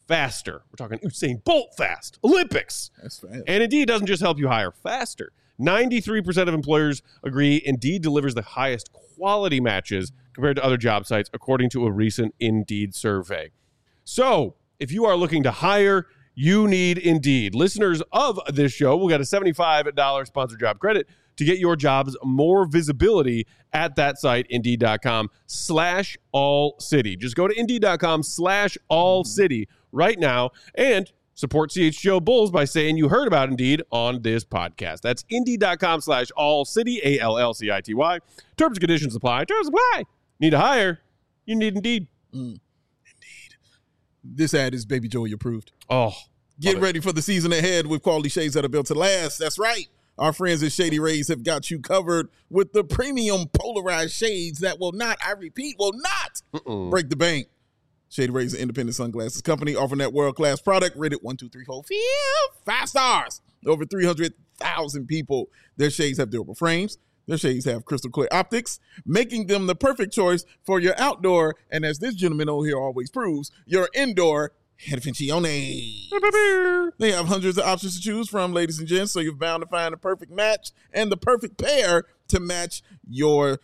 A: faster. We're talking Usain Bolt fast, Olympics.
B: That's fast.
A: And Indeed doesn't just help you hire faster. ninety-three percent of employers agree Indeed delivers the highest quality matches compared to other job sites, according to a recent Indeed survey. So, if you are looking to hire, you need Indeed. Listeners of this show will get a seventy-five dollars sponsored job credit to get your jobs more visibility at that site, Indeed.com slash all city. Just go to Indeed.com slash all city right now and support C H G O Bulls by saying you heard about Indeed on this podcast. That's Indeed.com slash all city, A L L C I T Y. Terms and conditions apply. Terms apply. Need to hire? You need Indeed.
B: Mm. Indeed. This ad is Baby Joey approved.
A: Oh,
B: Get ready for the season ahead with quality shades that are built to last. That's right. Our friends at Shady Rays have got you covered with the premium polarized shades that will not, I repeat, will not Mm-mm. break the bank. Shady Rays, an independent sunglasses company, offering that world-class product rated one, two, three, four, five stars. Over three hundred thousand people. Their shades have durable frames. Their shades have crystal clear optics, making them the perfect choice for your outdoor, and as this gentleman over here always proves, your indoor headphones. They have hundreds of options to choose from, ladies and gents, so you're bound to find the perfect match and the perfect pair to match your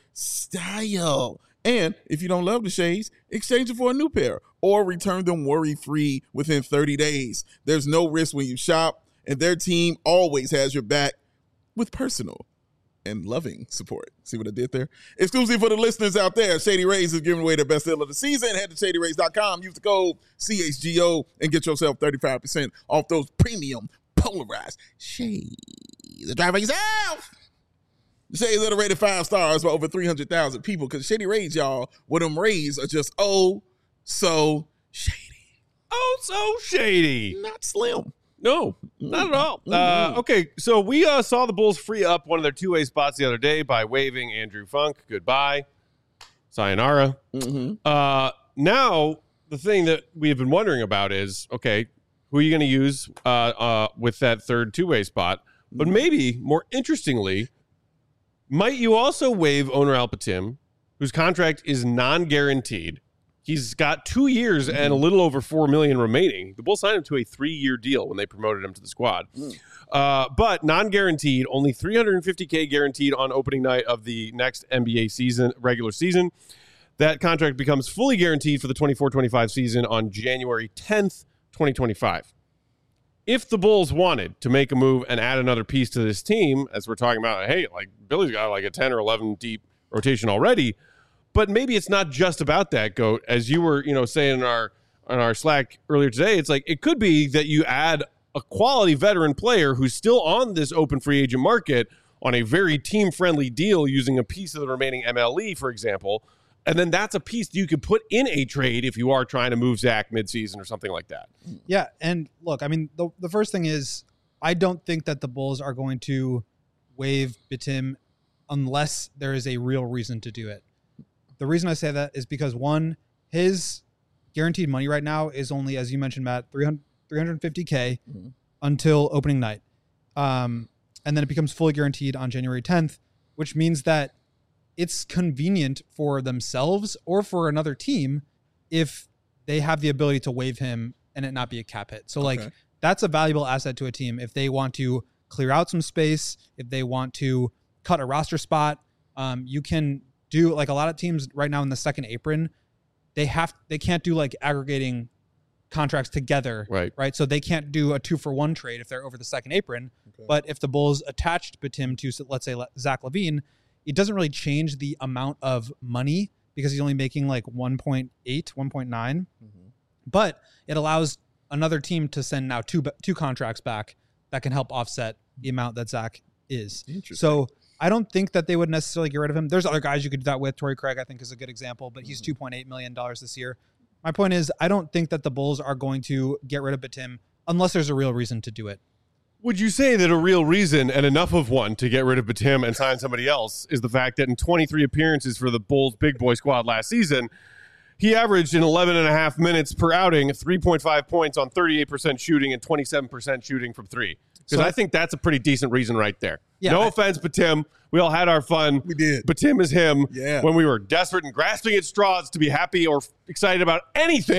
B: style. And if you don't love the shades, exchange it for a new pair or return them worry-free within thirty days. There's no risk when you shop, and their team always has your back with personal and loving support. See what I did there? Exclusive for the listeners out there, Shady Rays is giving away their best deal of the season. Head to shady rays dot com, use the code C H G O, and get yourself thirty-five percent off those premium polarized shades. Drive by yourself. The shades that are rated five stars by over three hundred thousand people, because Shady Rays, y'all, where them rays are just oh so shady.
A: Oh, so shady.
B: Not slim.
A: No, not at all. Uh, okay, so we uh, saw the Bulls free up one of their two-way spots the other day by waiving Andrew Funk. Goodbye. Sayonara.
B: Mm-hmm.
A: Uh, now, the thing that we have been wondering about is, okay, who are you going to use uh, uh, with that third two-way spot? But maybe, more interestingly, might you also waive Oner Alpatim, whose contract is non-guaranteed? He's got two years mm-hmm. and a little over four million dollars remaining. The Bulls signed him to a three-year deal when they promoted him to the squad. Mm. Uh, but non-guaranteed, only three hundred fifty thousand dollars guaranteed on opening night of the next N B A season, regular season. That contract becomes fully guaranteed for the twenty-four twenty-five season on January tenth, twenty twenty-five. If the Bulls wanted to make a move and add another piece to this team, as we're talking about, hey, like Billy's got like a ten or eleven deep rotation already. But maybe it's not just about that, Goat. As you were, you know, saying in our on our Slack earlier today, it's like it could be that you add a quality veteran player who's still on this open free agent market on a very team-friendly deal using a piece of the remaining M L E, for example, and then that's a piece that you could put in a trade if you are trying to move Zach midseason or something like that.
D: Yeah, and look, I mean, the the first thing is I don't think that the Bulls are going to waive Bitim unless there is a real reason to do it. The reason I say that is because, one, his guaranteed money right now is only, as you mentioned, Matt, three hundred fifty thousand mm-hmm. until opening night. Um, and then it becomes fully guaranteed on January tenth, which means that it's convenient for themselves or for another team if they have the ability to waive him and it not be a cap hit. So, like, okay. that's a valuable asset to a team if they want to clear out some space, if they want to cut a roster spot. Um, you can do like a lot of teams right now in the second apron, they have they can't do like aggregating contracts together,
A: right?
D: Right, so they can't do a two for one trade if they're over the second apron. Okay. But if the Bulls attached Bitim to, let's say, Zach LaVine, it doesn't really change the amount of money because he's only making like one point eight, one point nine. Mm-hmm. But it allows another team to send now two two contracts back that can help offset the amount that Zach is. So I don't think that they would necessarily get rid of him. There's other guys you could do that with. Torrey Craig, I think, is a good example, but he's two point eight million dollars this year. My point is, I don't think that the Bulls are going to get rid of Bitim unless there's a real reason to do it.
A: Would you say that a real reason and enough of one to get rid of Bitim and sign somebody else is the fact that in twenty-three appearances for the Bulls big boy squad last season, he averaged in eleven and a half minutes per outing, three point five points on thirty-eight percent shooting and twenty-seven percent shooting from three? Because so, I think that's a pretty decent reason right there. Yeah, no I, offense, Bitim. We all had our fun.
B: We did.
A: Bitim is him
B: yeah.
A: when we were desperate and grasping at straws to be happy or excited about anything.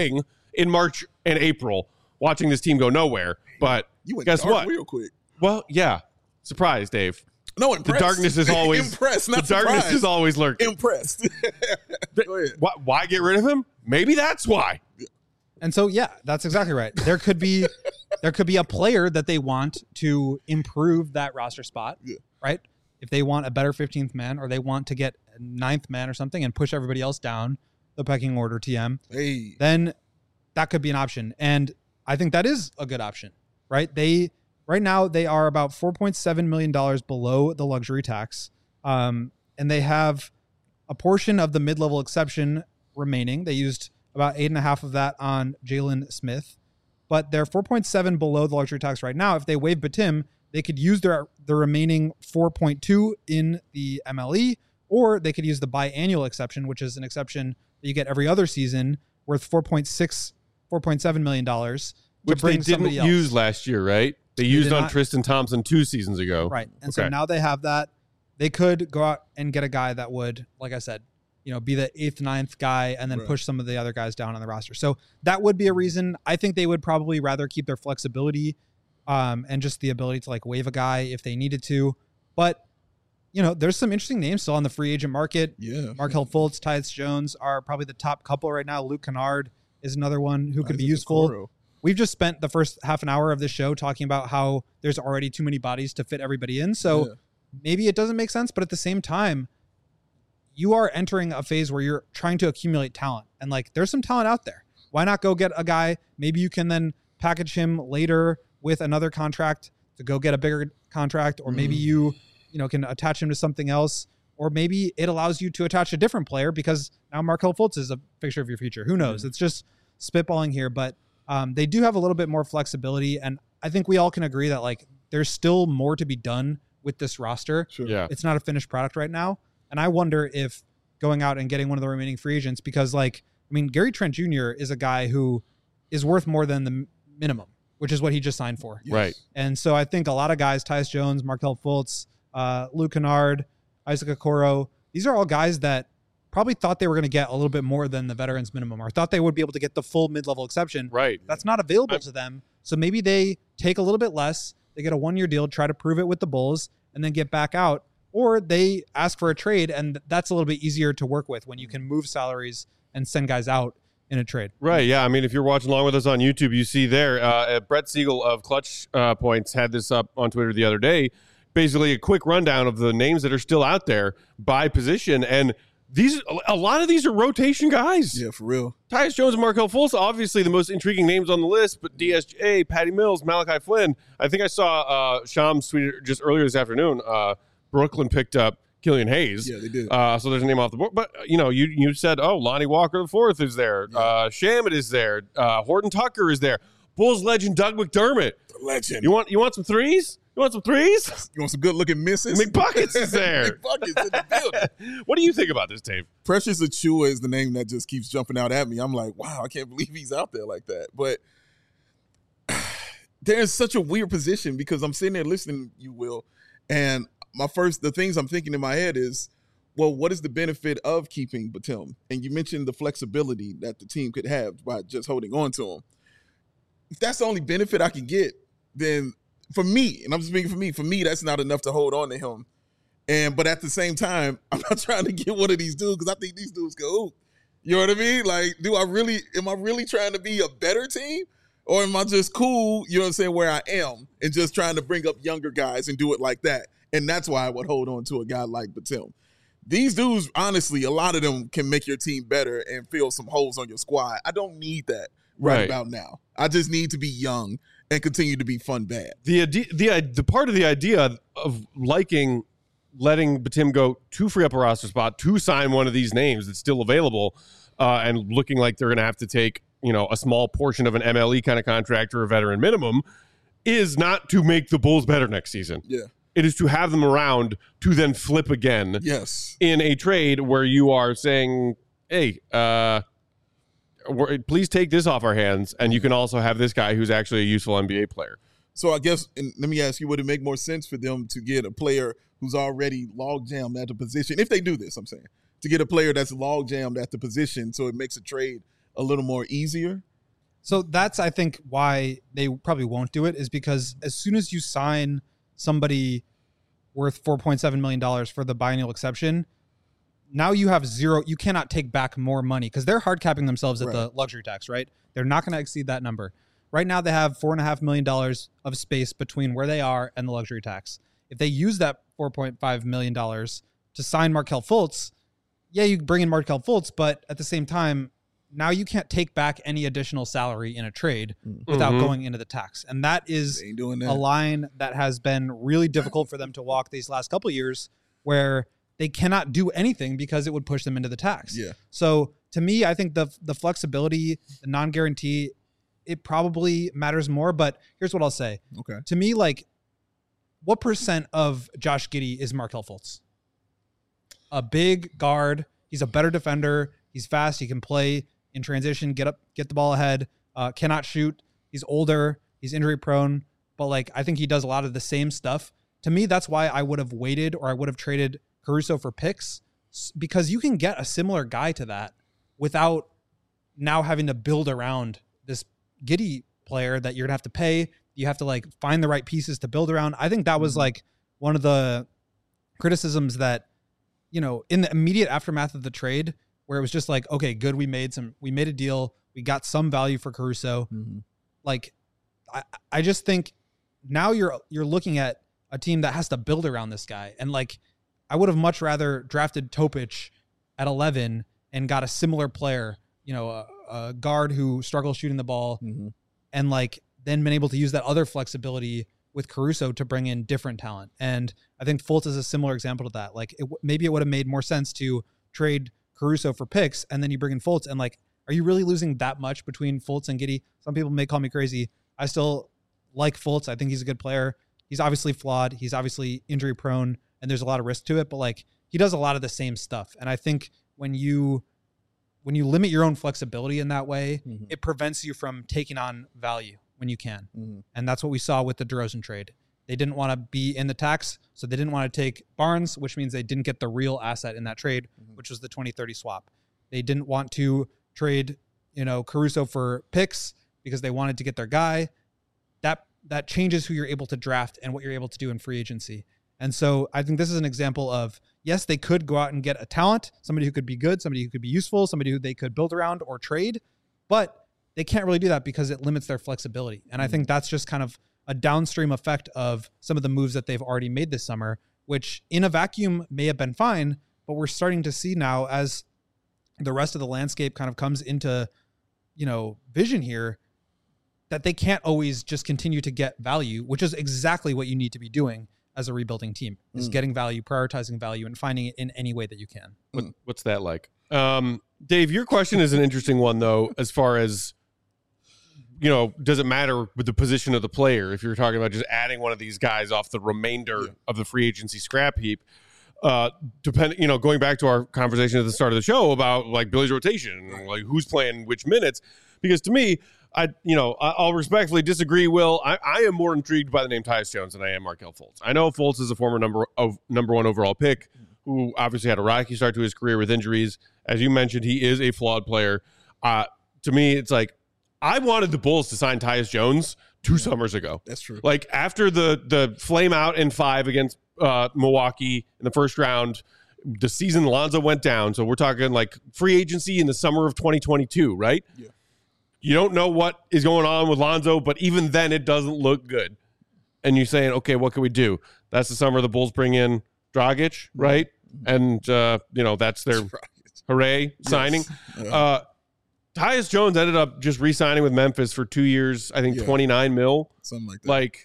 A: in March and April watching this team go nowhere. But
B: You went
A: guess
B: dark
A: what?
B: real quick.
A: Well, yeah. Surprise, Dave.
B: No, impressed.
A: The darkness is always
B: impressed. Not
A: the darkness
B: surprised.
A: is always lurking.
B: Impressed. Go ahead.
A: Why, why get rid of him? Maybe that's why.
D: And so, yeah, that's exactly right. There could be, there could be a player that they want to improve that roster spot,
B: Yeah.
D: right? If they want a better fifteenth man, or they want to get a ninth man or something and push everybody else down the pecking order, T M,
B: Hey.
D: then that could be an option. And I think that is a good option, right? They right now they are about four point seven million dollars below the luxury tax, um, and they have a portion of the mid-level exception remaining. They used about eight and a half of that on Jalen Smith, but they're four point seven below the luxury tax right now. If they waive Batum, they could use their the remaining four point two in the M L E, or they could use the biannual exception, which is an exception that you get every other season, worth four point six, four point seven million dollars, to
A: Which they
D: bring
A: didn't
D: somebody else.
A: use last year, right? They used
D: did
A: on
D: not.
A: Tristan Thompson two seasons ago.
D: Right. And so
A: Okay.
D: now they have that. They could go out and get a guy that would, like I said, you know, be the eighth, ninth guy and then
B: Right.
D: push some of the other guys down on the roster. So that would be a reason. I think they would probably rather keep their flexibility um, and just the ability to like waive a guy if they needed to. But, you know, there's some interesting names still on the free agent market.
B: Yeah.
D: Markelle Fultz, Tyus Jones are probably the top couple right now. Luke Kennard is another one who could be
B: Isaac
D: useful.
B: Okoro.
D: We've just spent the first half an hour of this show talking about how there's already too many bodies to fit everybody in. So
B: Yeah.
D: maybe it doesn't make sense, but at the same time, you are entering a phase where you're trying to accumulate talent. And like, there's some talent out there. Why not go get a guy? Maybe you can then package him later with another contract to go get a bigger contract, or maybe
B: Mm.
D: you, you know, can attach him to something else, or maybe it allows you to attach a different player because now Markelle Fultz is a picture of your future. Who knows? It's just spitballing here, but um, they do have a little bit more flexibility. And I think we all can agree that like there's still more to be done with this roster.
B: Sure.
A: Yeah.
D: It's not a finished product right now. And I wonder if going out and getting one of the remaining free agents, because like, I mean, Gary Trent Junior is a guy who is worth more than the m- minimum, which is what he just signed for.
B: Yes.
A: Right.
D: And so I think a lot of guys, Tyus Jones, Markelle Fultz, uh, Luke Kennard, Isaac Okoro, these are all guys that probably thought they were going to get a little bit more than the veterans minimum, or thought they would be able to get the full mid-level exception.
A: Right.
D: That's not available
A: I'm-
D: to them. So maybe they take a little bit less, they get a one-year deal, try to prove it with the Bulls, and then get back out. Or they ask for a trade, and that's a little bit easier to work with when you can move salaries and send guys out in a trade.
A: Right, yeah. I mean, if you're watching along with us on YouTube, you see there, uh, Brett Siegel of Clutch uh, Points had this up on Twitter the other day. Basically, a quick rundown of the names that are still out there by position, and these a lot of these are rotation guys.
B: Yeah, for real.
A: Tyus Jones and Markelle Fultz, obviously the most intriguing names on the list, but D S J, Patty Mills, Malachi Flynn. I think I saw uh, Shams tweet just earlier this afternoon. Uh, Brooklyn picked up Killian Hayes.
B: Yeah, they did.
A: Uh, so there's a name off the board. But, you know, you you said, oh, Lonnie Walker the fourth is there.
B: Yeah.
A: Uh, Shamet is there. Uh, Horton Tucker is there. Bulls legend Doug McDermott.
B: Legend.
A: You want you want some threes? You want some threes?
B: You want some good looking misses?
A: McBuckets is there.
B: McBuckets in the building.
A: What do you think about this, Dave?
B: Precious Achua is the name that just keeps jumping out at me. I'm like, wow, I can't believe he's out there like that. But there's such a weird position because I'm sitting there listening, you will, and my first, the things I'm thinking in my head is, well, what is the benefit of keeping Batum? And you mentioned the flexibility that the team could have by just holding on to him. If that's the only benefit I can get, then for me, and I'm speaking for me, for me, that's not enough to hold on to him. And but at the same time, I'm not trying to get one of these dudes because I think these dudes go, ooh. You know what I mean? Like, do I really, am I really trying to be a better team? Or am I just cool, you know what I'm saying, where I am and just trying to bring up younger guys and do it like that? And that's why I would hold on to a guy like Batum. These dudes, honestly, a lot of them can make your team better and fill some holes on your squad. I don't need that right,
A: Right.
B: about now. I just need to be young and continue to be fun bad.
A: The ide- the the part of the idea of liking letting Batum go to free up a roster spot to sign one of these names that's still available, uh, and looking like they're going to have to take, you know, a small portion of an M L E kind of contract or a veteran minimum, is not to make the Bulls better next season.
B: Yeah.
A: It is to have them around to then flip again
B: Yes.
A: in a trade where you are saying, hey, uh, we're, please take this off our hands, and you can also have this guy who's actually a useful N B A player.
B: So I guess, and let me ask you, would it make more sense for them to get a player who's already log jammed at the position, if they do this, I'm saying, to get a player that's log jammed at the position so it makes a trade a little more easier?
D: So that's, I think, why they probably won't do it, is because as soon as you sign somebody worth four point seven million dollars for the biennial exception, now you have zero. You cannot take back more money because they're hard capping themselves at
B: Right.
D: the luxury tax, right? They're not going to exceed that number. Right now, they have four point five million dollars of space between where they are and the luxury tax. If they use that four point five million dollars to sign Markelle Fultz, yeah, you bring in Markelle Fultz, but at the same time, now you can't take back any additional salary in a trade without
A: Mhm.
D: going into the tax. And that is
B: They ain't doing that.
D: a line that has been really difficult for them to walk these last couple of years, where they cannot do anything because it would push them into the tax.
B: Yeah.
D: So to me, I think the the flexibility, the non-guarantee, it probably matters more. But here's what I'll say.
B: Okay.
D: To me, like, what percent of Josh Giddey is Markelle Fultz? A big guard. He's a better defender. He's fast. He can play in transition, get up, get the ball ahead, uh, cannot shoot. He's older. He's injury prone. But, like, I think he does a lot of the same stuff. To me, that's why I would have waited, or I would have traded Caruso for picks, because you can get a similar guy to that without now having to build around this Giddey player that you're gonna have to pay. You have to, like, find the right pieces to build around. I think that was like one of the criticisms that, you know, in the immediate aftermath of the trade, where it was just like, okay, good, we made some, we made a deal, we got some value for Caruso.
B: Mm-hmm.
D: Like, I, I just think now you're you're looking at a team that has to build around this guy, and, like, I would have much rather drafted Topic at eleven and got a similar player, you know, a, a guard who struggles shooting the ball,
B: Mm-hmm.
D: and, like, then been able to use that other flexibility with Caruso to bring in different talent. And I think Fultz is a similar example to that. Like, it, maybe it would have made more sense to trade Caruso for picks, and then you bring in Fultz, and, like, are you really losing that much between Fultz and Giddey? Some people may call me crazy. I still like Fultz. I think he's a good player. He's obviously flawed. He's obviously injury prone, and there's a lot of risk to it, but, like, he does a lot of the same stuff. And I think when you when you limit your own flexibility in that way,
B: Mhm.
D: it prevents you from taking on value when you can.
B: Mhm.
D: And that's what we saw with the DeRozan trade. They didn't want to be in the tax, so they didn't want to take Barnes, which means they didn't get the real asset in that trade,
B: Mhm.
D: which was the twenty thirty swap. They didn't want to trade, you know, Caruso for picks because they wanted to get their guy. That that changes who you're able to draft and what you're able to do in free agency. And so I think this is an example of, yes, they could go out and get a talent, somebody who could be good, somebody who could be useful, somebody who they could build around or trade, but they can't really do that because it limits their flexibility. And I think that's just kind of a downstream effect of some of the moves that they've already made this summer, which in a vacuum may have been fine, but we're starting to see now, as the rest of the landscape kind of comes into, you know, vision here, that they can't always just continue to get value, which is exactly what you need to be doing as a rebuilding team, is
B: Mm.
D: getting value, prioritizing value, and finding it in any way that you can.
A: What, what's that like? Um, Dave, your question is an interesting one, though, as far as, you know, does it matter with the position of the player if you're talking about just adding one of these guys off the remainder
B: Yeah.
A: of the free agency scrap heap? Uh, depending, you know, going back to our conversation at the start of the show about, like, Billy's rotation, like who's playing which minutes, because to me, I, you know, I- I'll respectfully disagree. Will I, I am more intrigued by the name Tyus Jones than I am Markelle Fultz. I know Fultz is a former number of number one overall pick who obviously had a rocky start to his career with injuries. As you mentioned, he is a flawed player. Uh, to me, it's like I wanted the Bulls to sign Tyus Jones two summers ago.
B: That's true.
A: Like after the the flame out in five against uh, Milwaukee in the first round, the season Lonzo went down. So we're talking like free agency in the summer of twenty twenty-two, right?
B: Yeah.
A: You don't know what is going on with Lonzo, but even then it doesn't look good. And you're saying, okay, what can we do? That's the summer the Bulls bring in Dragic, right? And, uh, you know, that's their hooray signing.
B: Yeah.
A: Uh, Tyus Jones ended up just re-signing with Memphis for two years, I think
B: Yeah.
A: twenty-nine mil.
B: Something like that.
A: Like,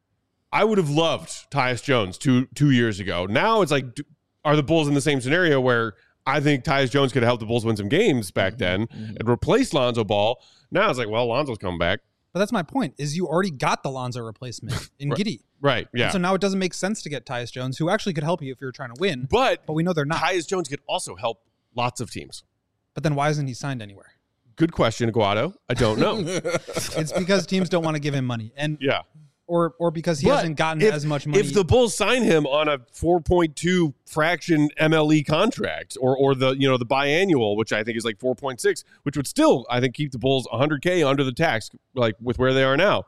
A: I would have loved Tyus Jones two two years ago. Now it's like, do, are the Bulls in the same scenario where I think Tyus Jones could have helped the Bulls win some games back then
B: Mhm.
A: and replace Lonzo Ball? Now it's like, well, Lonzo's coming back.
D: But that's my point, is you already got the Lonzo replacement in
A: Right.
D: Giddey.
A: Right, yeah.
D: And so now it doesn't make sense to get Tyus Jones, who actually could help you if you're trying to win,
A: But
D: but we know they're not.
A: Tyus Jones could also help lots of teams.
D: But then why isn't he signed anywhere?
A: Good question, Guado. I don't know.
D: It's because teams don't want to give him money. And
A: Yeah.
D: or or because he
A: But
D: hasn't gotten
A: if,
D: as much money.
A: If the Bulls sign him on a four point two fraction M L E contract, or or the you know the biannual, which I think is like four point six, which would still I think keep the Bulls one hundred K under the tax, like with where they are now.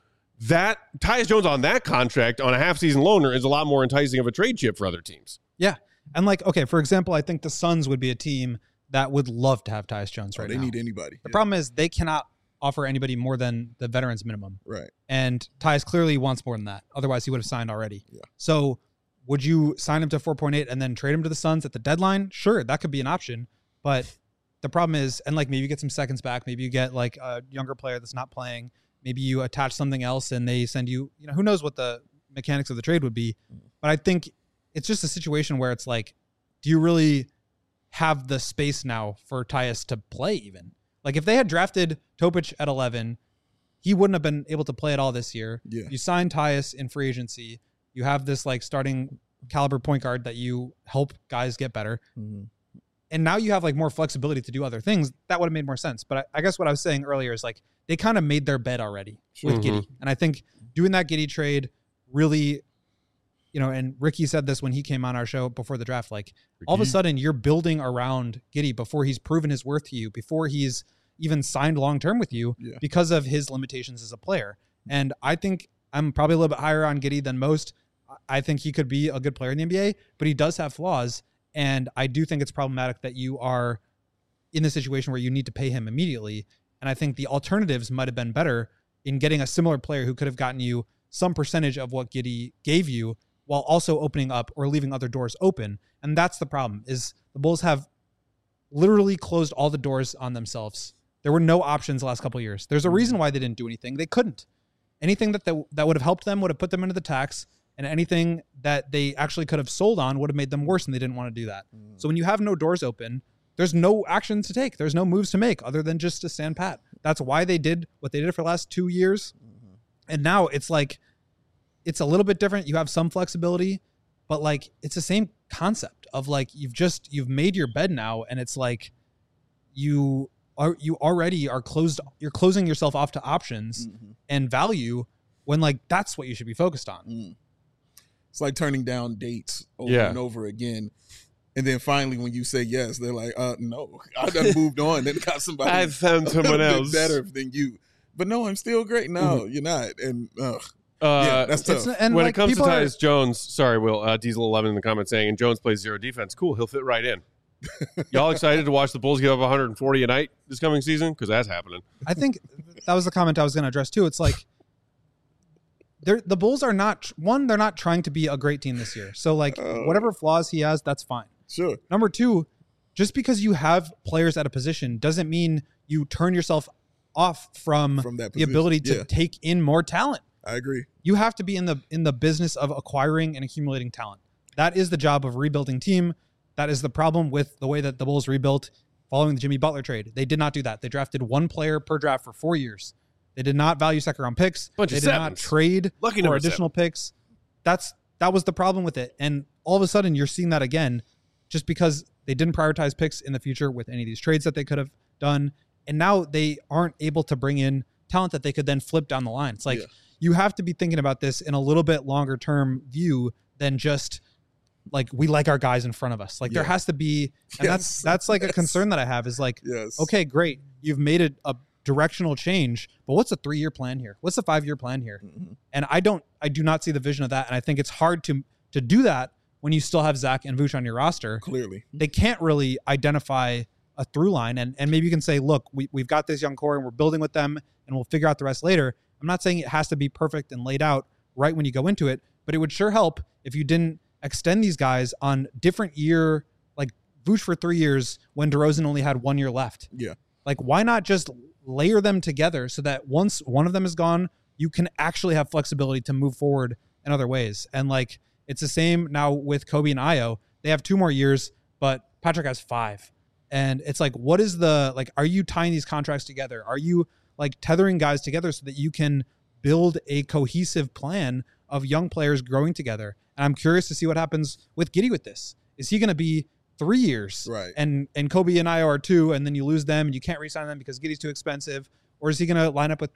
A: That Tyus Jones on that contract on a half season loaner is a lot more enticing of a trade chip for other teams.
D: Yeah, and like okay, for example, I think the Suns would be a team that would love to have Tyus Jones right
B: oh, they
D: now.
B: need anybody.
D: The
B: yeah.
D: problem is they cannot offer anybody more than the veterans minimum.
B: Right.
D: And Tyus clearly wants more than that. Otherwise, he would have signed already.
B: Yeah.
D: So would you sign him to four point eight and then trade him to the Suns at the deadline? Sure, that could be an option. But the problem is, and like maybe you get some seconds back. Maybe you get like a younger player that's not playing. Maybe you attach something else and they send you, you know, who knows what the mechanics of the trade would be. But I think it's just a situation where it's like, do you really have the space now for Tyus to play even? Like if they had drafted Topic at eleven, he wouldn't have been able to play at all this year.
B: Yeah.
D: You signed Tyus in free agency. You have this like starting caliber point guard that you help guys get better.
B: Mm-hmm.
D: And now you have like more flexibility to do other things. That would have made more sense. But I, I guess what I was saying earlier is like they kind of made their bed already with
A: Mm-hmm.
D: Giddey. And I think doing that Giddey trade really, you know, and Ricky said this when he came on our show before the draft, like all of a sudden you're building around Giddey before he's proven his worth to you, before he's even signed long-term with you
B: Yeah.
D: because of his limitations as a player. And I think I'm probably a little bit higher on Giddey than most. I think he could be a good player in the N B A, but he does have flaws. And I do think it's problematic that you are in the situation where you need to pay him immediately. And I think the alternatives might have been better in getting a similar player who could have gotten you some percentage of what Giddey gave you while also opening up or leaving other doors open. And that's the problem, is the Bulls have literally closed all the doors on themselves. There were no options the last couple of years. There's a reason why they didn't do anything. They couldn't. Anything that they, that would have helped them would have put them into the tax, and anything that they actually could have sold on would have made them worse, and they didn't want to do that. Mm. So when you have no doors open, there's no actions to take. There's no moves to make other than just to stand pat. That's why they did what they did for the last two years. Mm-hmm. And now it's like, it's a little bit different. You have some flexibility, but like, it's the same concept of like, you've just, you've made your bed now. And it's like, you are, you already are closed. You're closing yourself off to options mm-hmm. and value when like, that's what you should be focused on.
B: Mm. It's like turning down dates over
A: Yeah.
B: and over again. And then finally, when you say yes, they're like, uh, no, I done moved on and got somebody
A: I found someone else
B: better than you. But no, I'm still great. No, mm-hmm. you're not. And uh,
A: Uh,
B: yeah, that's tough.
D: and
A: when
D: like,
A: it comes to
D: people are-
A: Tyus Jones, sorry, Will, uh, Diesel eleven in the comments saying, and Jones plays zero defense. Cool, he'll fit right in. Y'all excited to watch the Bulls give up one hundred forty a night this coming season? Because that's happening.
D: I think that was the comment I was going to address too. It's like, they're, the Bulls are not, one, they're not trying to be a great team this year. So like,
B: Uh,
D: whatever flaws he has, that's fine.
B: Sure.
D: Number two, just because you have players at a position doesn't mean you turn yourself off from,
B: From that
D: the
B: position.
D: ability to
B: Yeah.
D: take in more talent.
B: I agree.
D: You have to be in the in the business of acquiring and accumulating talent. That is the job of a rebuilding team. That is the problem with the way that the Bulls rebuilt following the Jimmy Butler trade. They did not do that. They drafted one player per draft for four years. They did not value second round picks.
A: Bunch
D: they
A: of
D: did
A: sevens.
D: not trade
A: Lucky
D: for
A: number
D: additional picks. That's that was the problem with it. And all of a sudden you're seeing that again, just because they didn't prioritize picks in the future with any of these trades that they could have done. And now they aren't able to bring in talent that they could then flip down the line. It's like,
B: Yeah.
D: you have to be thinking about this in a little bit longer term view than just like, we like our guys in front of us. Like
B: Yeah.
D: there has to be, and
B: Yes.
D: that's, that's like
B: Yes.
D: a concern that I have is like,
B: Yes.
D: okay, great. You've made it a directional change, but what's the three year plan here? What's the five year plan here?
B: Mm-hmm.
D: And I don't, I do not see the vision of that. And I think it's hard to, to do that when you still have Zach and Vooch on your roster.
B: Clearly.
D: They can't really identify a through line. And, and maybe you can say, look, we, we've got this young core and we're building with them and we'll figure out the rest later. I'm not saying it has to be perfect and laid out right when you go into it, but it would sure help if you didn't extend these guys on different year, like Vooch for three years when DeRozan only had one year left.
B: Yeah.
D: Like, why not just layer them together so that once one of them is gone, you can actually have flexibility to move forward in other ways. And like, it's the same now with Kobe and Ayo. They have two more years, but Patrick has five. And it's like, what is the, like, are you tying these contracts together? Are you like tethering guys together so that you can build a cohesive plan of young players growing together? And I'm curious to see what happens with Giddey with this. Is he going to be three years?
B: Right.
D: And and Kobe and Ayo are two, and then you lose them and you can't re-sign them because Giddey's too expensive? Or is he going to line up with Pat?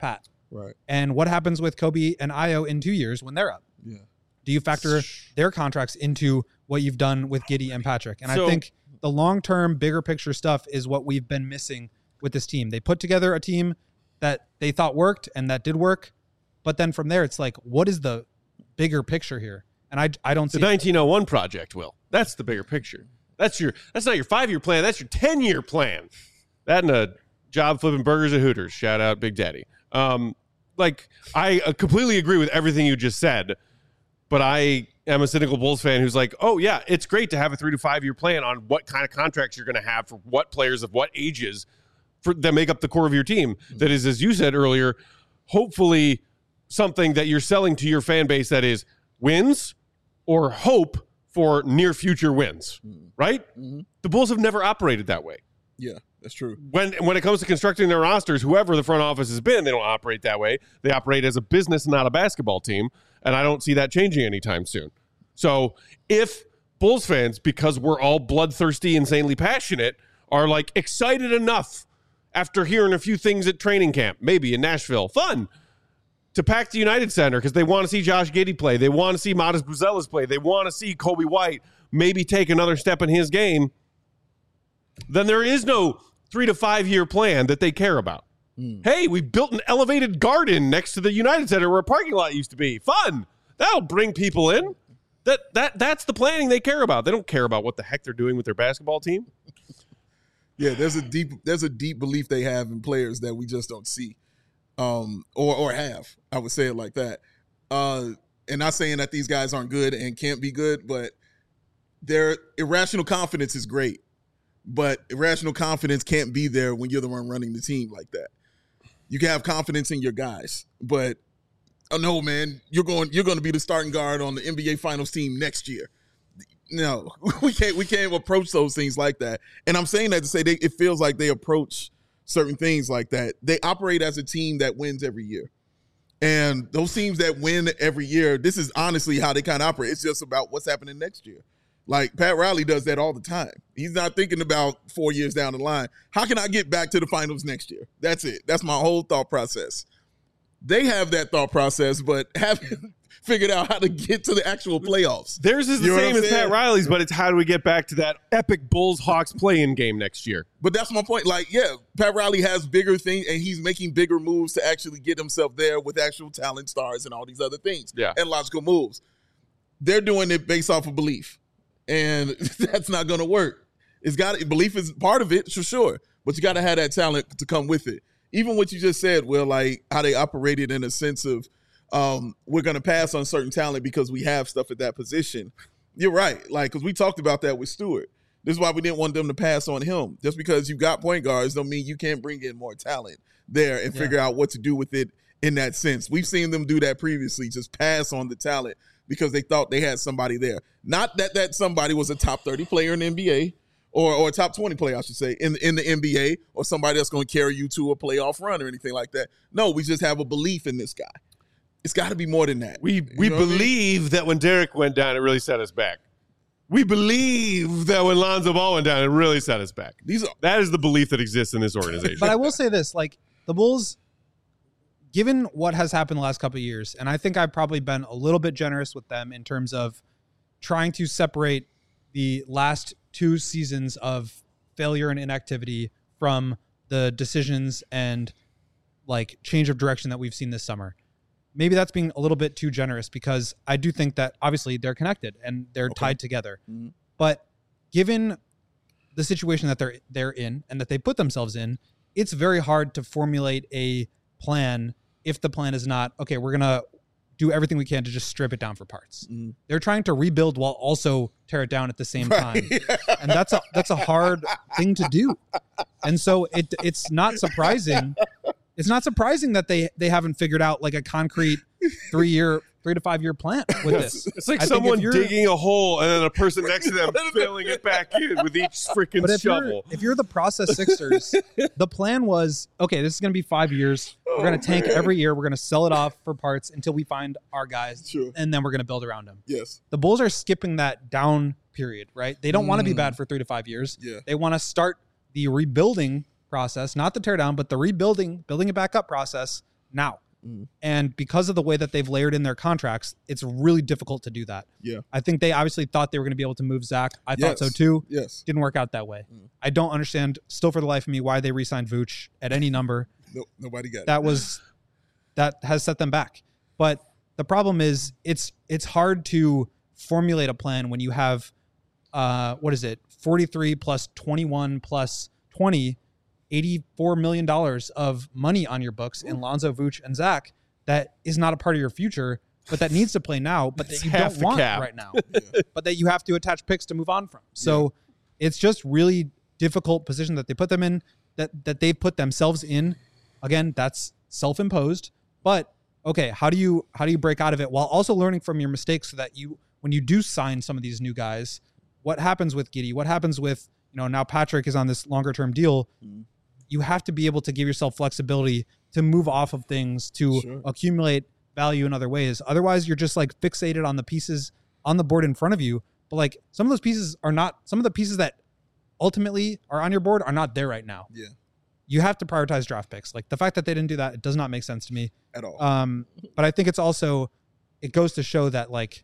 B: Right.
D: And what happens with Kobe and Ayo in two years when they're up?
B: Yeah.
D: Do you factor their contracts into what you've done with Giddey and Patrick? And
A: So,
D: I think the long-term, bigger picture stuff is what we've been missing with this team. They put together a team that they thought worked and that did work. But then from there, it's like, what is the bigger picture here? And I, I don't
A: The
D: see
A: nineteen oh one project, Will. That's the bigger picture. That's your. That's not your five-year plan. That's your ten-year plan. That and a job flipping burgers at Hooters. Shout out Big Daddy. Um, like, I uh, completely agree with everything you just said. But I am a cynical Bulls fan who's like, oh, yeah, it's great to have a three to five year plan on what kind of contracts you're going to have for what players of what ages for that make up the core of your team. Mm-hmm. That is, as you said earlier, hopefully something that you're selling to your fan base that is wins or hope for near future wins, mm-hmm. right? Mm-hmm. The Bulls have never operated that way.
B: Yeah, that's true.
A: When when it comes to constructing their rosters, whoever the front office has been, they don't operate that way. They operate as a business, not a basketball team. And I don't see that changing anytime soon. So if Bulls fans, because we're all bloodthirsty, insanely passionate, are like excited enough after hearing a few things at training camp, maybe in Nashville, fun, to pack the United Center because they want to see Josh Giddey play. They want to see Modest Buzelis play. They want to see Kobe White maybe take another step in his game. Then there is no three to five year plan that they care about. Mm. Hey, we built an elevated garden next to the United Center where a parking lot used to be. Fun. That'll bring people in. That that that's the planning they care about. They don't care about what the heck they're doing with their basketball team.
B: Yeah, there's a deep there's a deep belief they have in players that we just don't see, um, or or have. I would say it like that. Uh, and not saying that these guys aren't good and can't be good, but their irrational confidence is great. But irrational confidence can't be there when you're the one running the team like that. You can have confidence in your guys, but oh no, man, you're going you're going to be the starting guard on the N B A Finals team next year. No, we can't we can't approach those things like that. And I'm saying that to say they, it feels like they approach certain things like that. They operate as a team that wins every year. And those teams that win every year, this is honestly how they kind of operate. It's just about what's happening next year. Like Pat Riley does that all the time. He's not thinking about four years down the line. How can I get back to the finals next year? That's it. That's my whole thought process. They have that thought process, but haven't figured out how to get to the actual playoffs.
A: Theirs is the
B: You know
A: same
B: what I'm
A: as
B: saying?
A: Pat Riley's, but it's how do we get back to that epic Bulls-Hawks play-in game next year?
B: But that's my point. Like, yeah, Pat Riley has bigger things, and he's making bigger moves to actually get himself there with actual talent, stars, and all these other things.
A: Yeah.
B: And logical moves. They're doing it based off of belief. And that's not going to work. It's got belief is part of it, for sure. But you got to have that talent to come with it. Even what you just said, Will, like how they operated in a sense of um, we're going to pass on certain talent because we have stuff at that position. You're right. Like, because we talked about that with Stewart. This is why we didn't want them to pass on him. Just because you got point guards don't mean you can't bring in more talent there and figure yeah. out what to do with it in that sense. We've seen them do that previously, just pass on the talent because they thought they had somebody there. Not that that somebody was a top thirty player in the N B A or, or a top twenty player, I should say, in, in the N B A or somebody that's going to carry you to a playoff run or anything like that. No, we just have a belief in this guy. It's got to be more than that.
A: We we you know believe I mean? that when Derek went down, it really set us back. We believe that when Lonzo Ball went down, it really set us back. These are, that is the belief that exists in this organization.
D: But I will say this, like the Bulls, given what has happened the last couple of years, and I think I've probably been a little bit generous with them in terms of trying to separate the last two seasons of failure and inactivity from the decisions and like change of direction that we've seen this summer. Maybe that's being a little bit too generous because I do think that obviously they're connected and they're okay. tied together. Mm-hmm. But given the situation that they're they're in and that they put themselves in, it's very hard to formulate a plan if the plan is not, okay, we're going to do everything we can to just strip it down for parts. Mm-hmm. They're trying to rebuild while also tear it down at the same time. Right. And that's a that's a hard thing to do. And so it it's not surprising It's not surprising that they they haven't figured out like a concrete three year, three to five year plan with this.
A: It's like I someone digging a hole and then a person next to them filling it back in with each freaking
D: if
A: shovel.
D: You're, if you're the process Sixers, the plan was, okay, this is going to be five years. We're going to tank
B: man.
D: every year. We're going to sell it off for parts until we find our guys,
B: sure.
D: and then we're going to build around them.
B: Yes.
D: The Bulls are skipping that down period, right? They don't mm. want to be bad for three to five years.
B: Yeah.
D: They want to start the rebuilding process, not the tear down, but the rebuilding, building it back up process now.
B: Mm.
D: And because of the way that they've layered in their contracts, it's really difficult to do that.
B: Yeah.
D: I think they obviously thought they were going to be able to move Zach. I
B: Yes.
D: thought so too.
B: Yes.
D: Didn't work out that way.
B: Mm.
D: I don't understand still for the life of me why they re-signed Vooch at any number.
B: No, nobody got
D: That
B: it.
D: was that has set them back. But the problem is it's it's hard to formulate a plan when you have uh what is it? forty-three plus twenty-one plus twenty, eighty-four million dollars of money on your books in Lonzo, Vooch, and Zach that is not a part of your future, but that needs to play now, but that
A: It's
D: you
A: half
D: don't
A: the
D: want
A: cap.
D: right now.
B: Yeah.
D: But that you have to attach picks to move on from. So it's just really difficult position that they put them in, that that they've put themselves in. Again, that's self-imposed. But okay, how do you how do you break out of it while also learning from your mistakes so that you when you do sign some of these new guys, what happens with Giddey? What happens with, you know, now Patrick is on this longer term deal.
B: Mm.
D: You have to be able to give yourself flexibility to move off of things, to
B: Sure.
D: accumulate value in other ways. Otherwise, you're just like fixated on the pieces on the board in front of you. But like some of those pieces are not, some of the pieces that ultimately are on your board are not there right now.
B: Yeah.
D: You have to prioritize draft picks. Like the fact that they didn't do that, it does not make sense to me.
B: At all.
D: Um, but I think it's also, it goes to show that like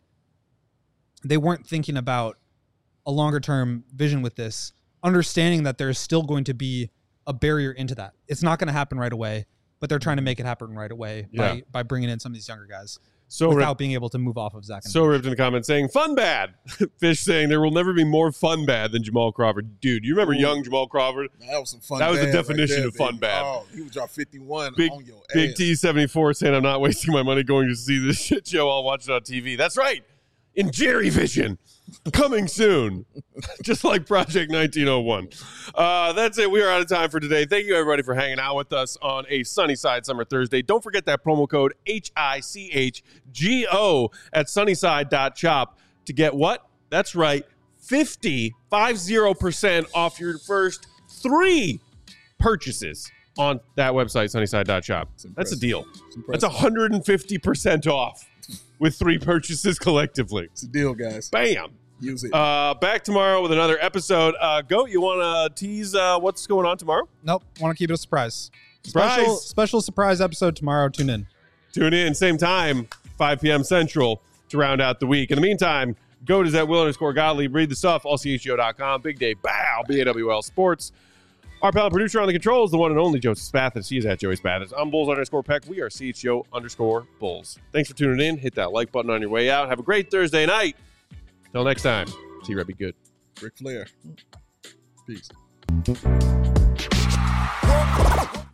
D: they weren't thinking about a longer term vision with this, understanding that there's still going to be a barrier into that. It's not going to happen right away, but they're trying to make it happen right away
A: Yeah.
D: by, by bringing in some of these younger guys
A: So
D: without
A: ripped,
D: being able to move off of Zach. And
A: so ripped in the comments saying, fun bad. Fish saying, there will never be more fun bad than Jamal Crawford. Dude, you remember
B: Ooh.
A: young Jamal Crawford?
B: That was some fun.
A: That was the
B: bad
A: definition
B: right there,
A: of fun
B: baby.
A: bad.
B: Oh, he would drop fifty-one
A: Big,
B: on your
A: Big
B: ass.
A: T seventy-four saying, I'm not wasting my money going to see this shit show. I'll watch it on T V. That's right. In Jerry Vision. Coming soon. Just like Project nineteen oh one. Uh, that's it. We are out of time for today. Thank you, everybody, for hanging out with us on a Sunnyside Summer Thursday. Don't forget that promo code H I C H G O at sunnyside dot shop to get what? That's right. fifty, fifty percent off your first three purchases on that website, sunnyside dot shop. That's a
B: impressive.
A: deal.
B: It's
A: That's
B: impressive.
A: one hundred fifty percent off with three purchases collectively.
B: It's a deal, guys.
A: Bam.
B: Use it.
A: Uh, back tomorrow with another episode. Uh, Goat, you want to tease uh, what's going on tomorrow?
D: Nope. Want to keep it a surprise.
A: Surprise.
D: Special, special surprise episode tomorrow. Tune in.
A: Tune in, same time, five p.m. Central to round out the week. In the meantime, Goat is at Will underscore Gottlieb. Read the stuff, all c h g o dot com. Big day, bow, B A W L Sports. Our pal and producer on the controls, the one and only Joseph Spathis. He is at Joey Spathis. I'm Bulls underscore Peck. We are C H G O underscore Bulls. Thanks for tuning in. Hit that like button on your way out. Have a great Thursday night. Till next time, see you, Red. Be good.
B: Ric Flair. Peace.